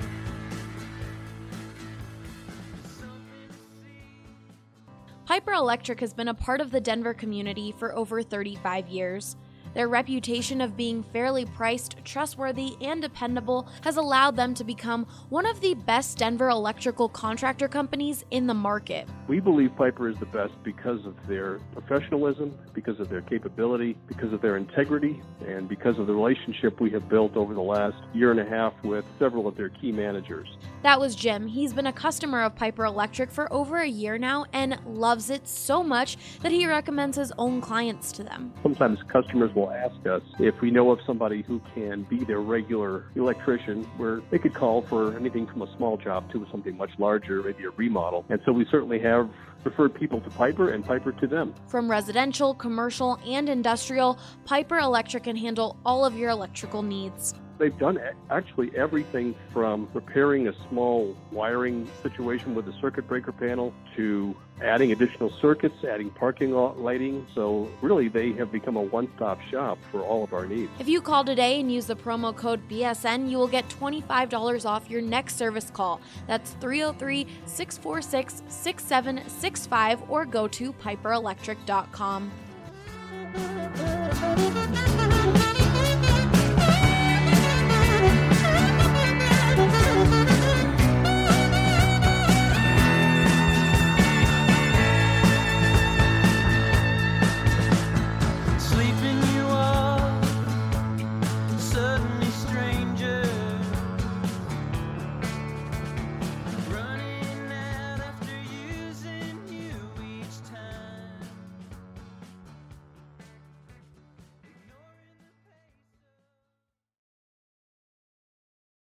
Something to see. Piper Electric has been a part of the Denver community for over thirty-five years. Their reputation of being fairly priced, trustworthy, and dependable has allowed them to become one of the best Denver electrical contractor companies in the market. We believe Piper is the best because of their professionalism, because of their capability, because of their integrity, and because of the relationship we have built over the last year and a half with several of their key managers. That was Jim. He's been a customer of Piper Electric for over a year now and loves it so much that he recommends his own clients to them. Sometimes customers will ask us if we know of somebody who can be their regular electrician, where they could call for anything from a small job to something much larger, maybe a remodel. And so we certainly have referred people to Piper and Piper to them. From residential, commercial, and industrial, Piper Electric can handle all of your electrical needs. They've done a- actually everything from repairing a small wiring situation with a circuit breaker panel to adding additional circuits, adding parking lot lighting. So really, they have become a one-stop shop for all of our needs. If you call today and use the promo code B S N, you will get twenty-five dollars off your next service call. That's three oh three, six four six, six seven six five or go to piper electric dot com.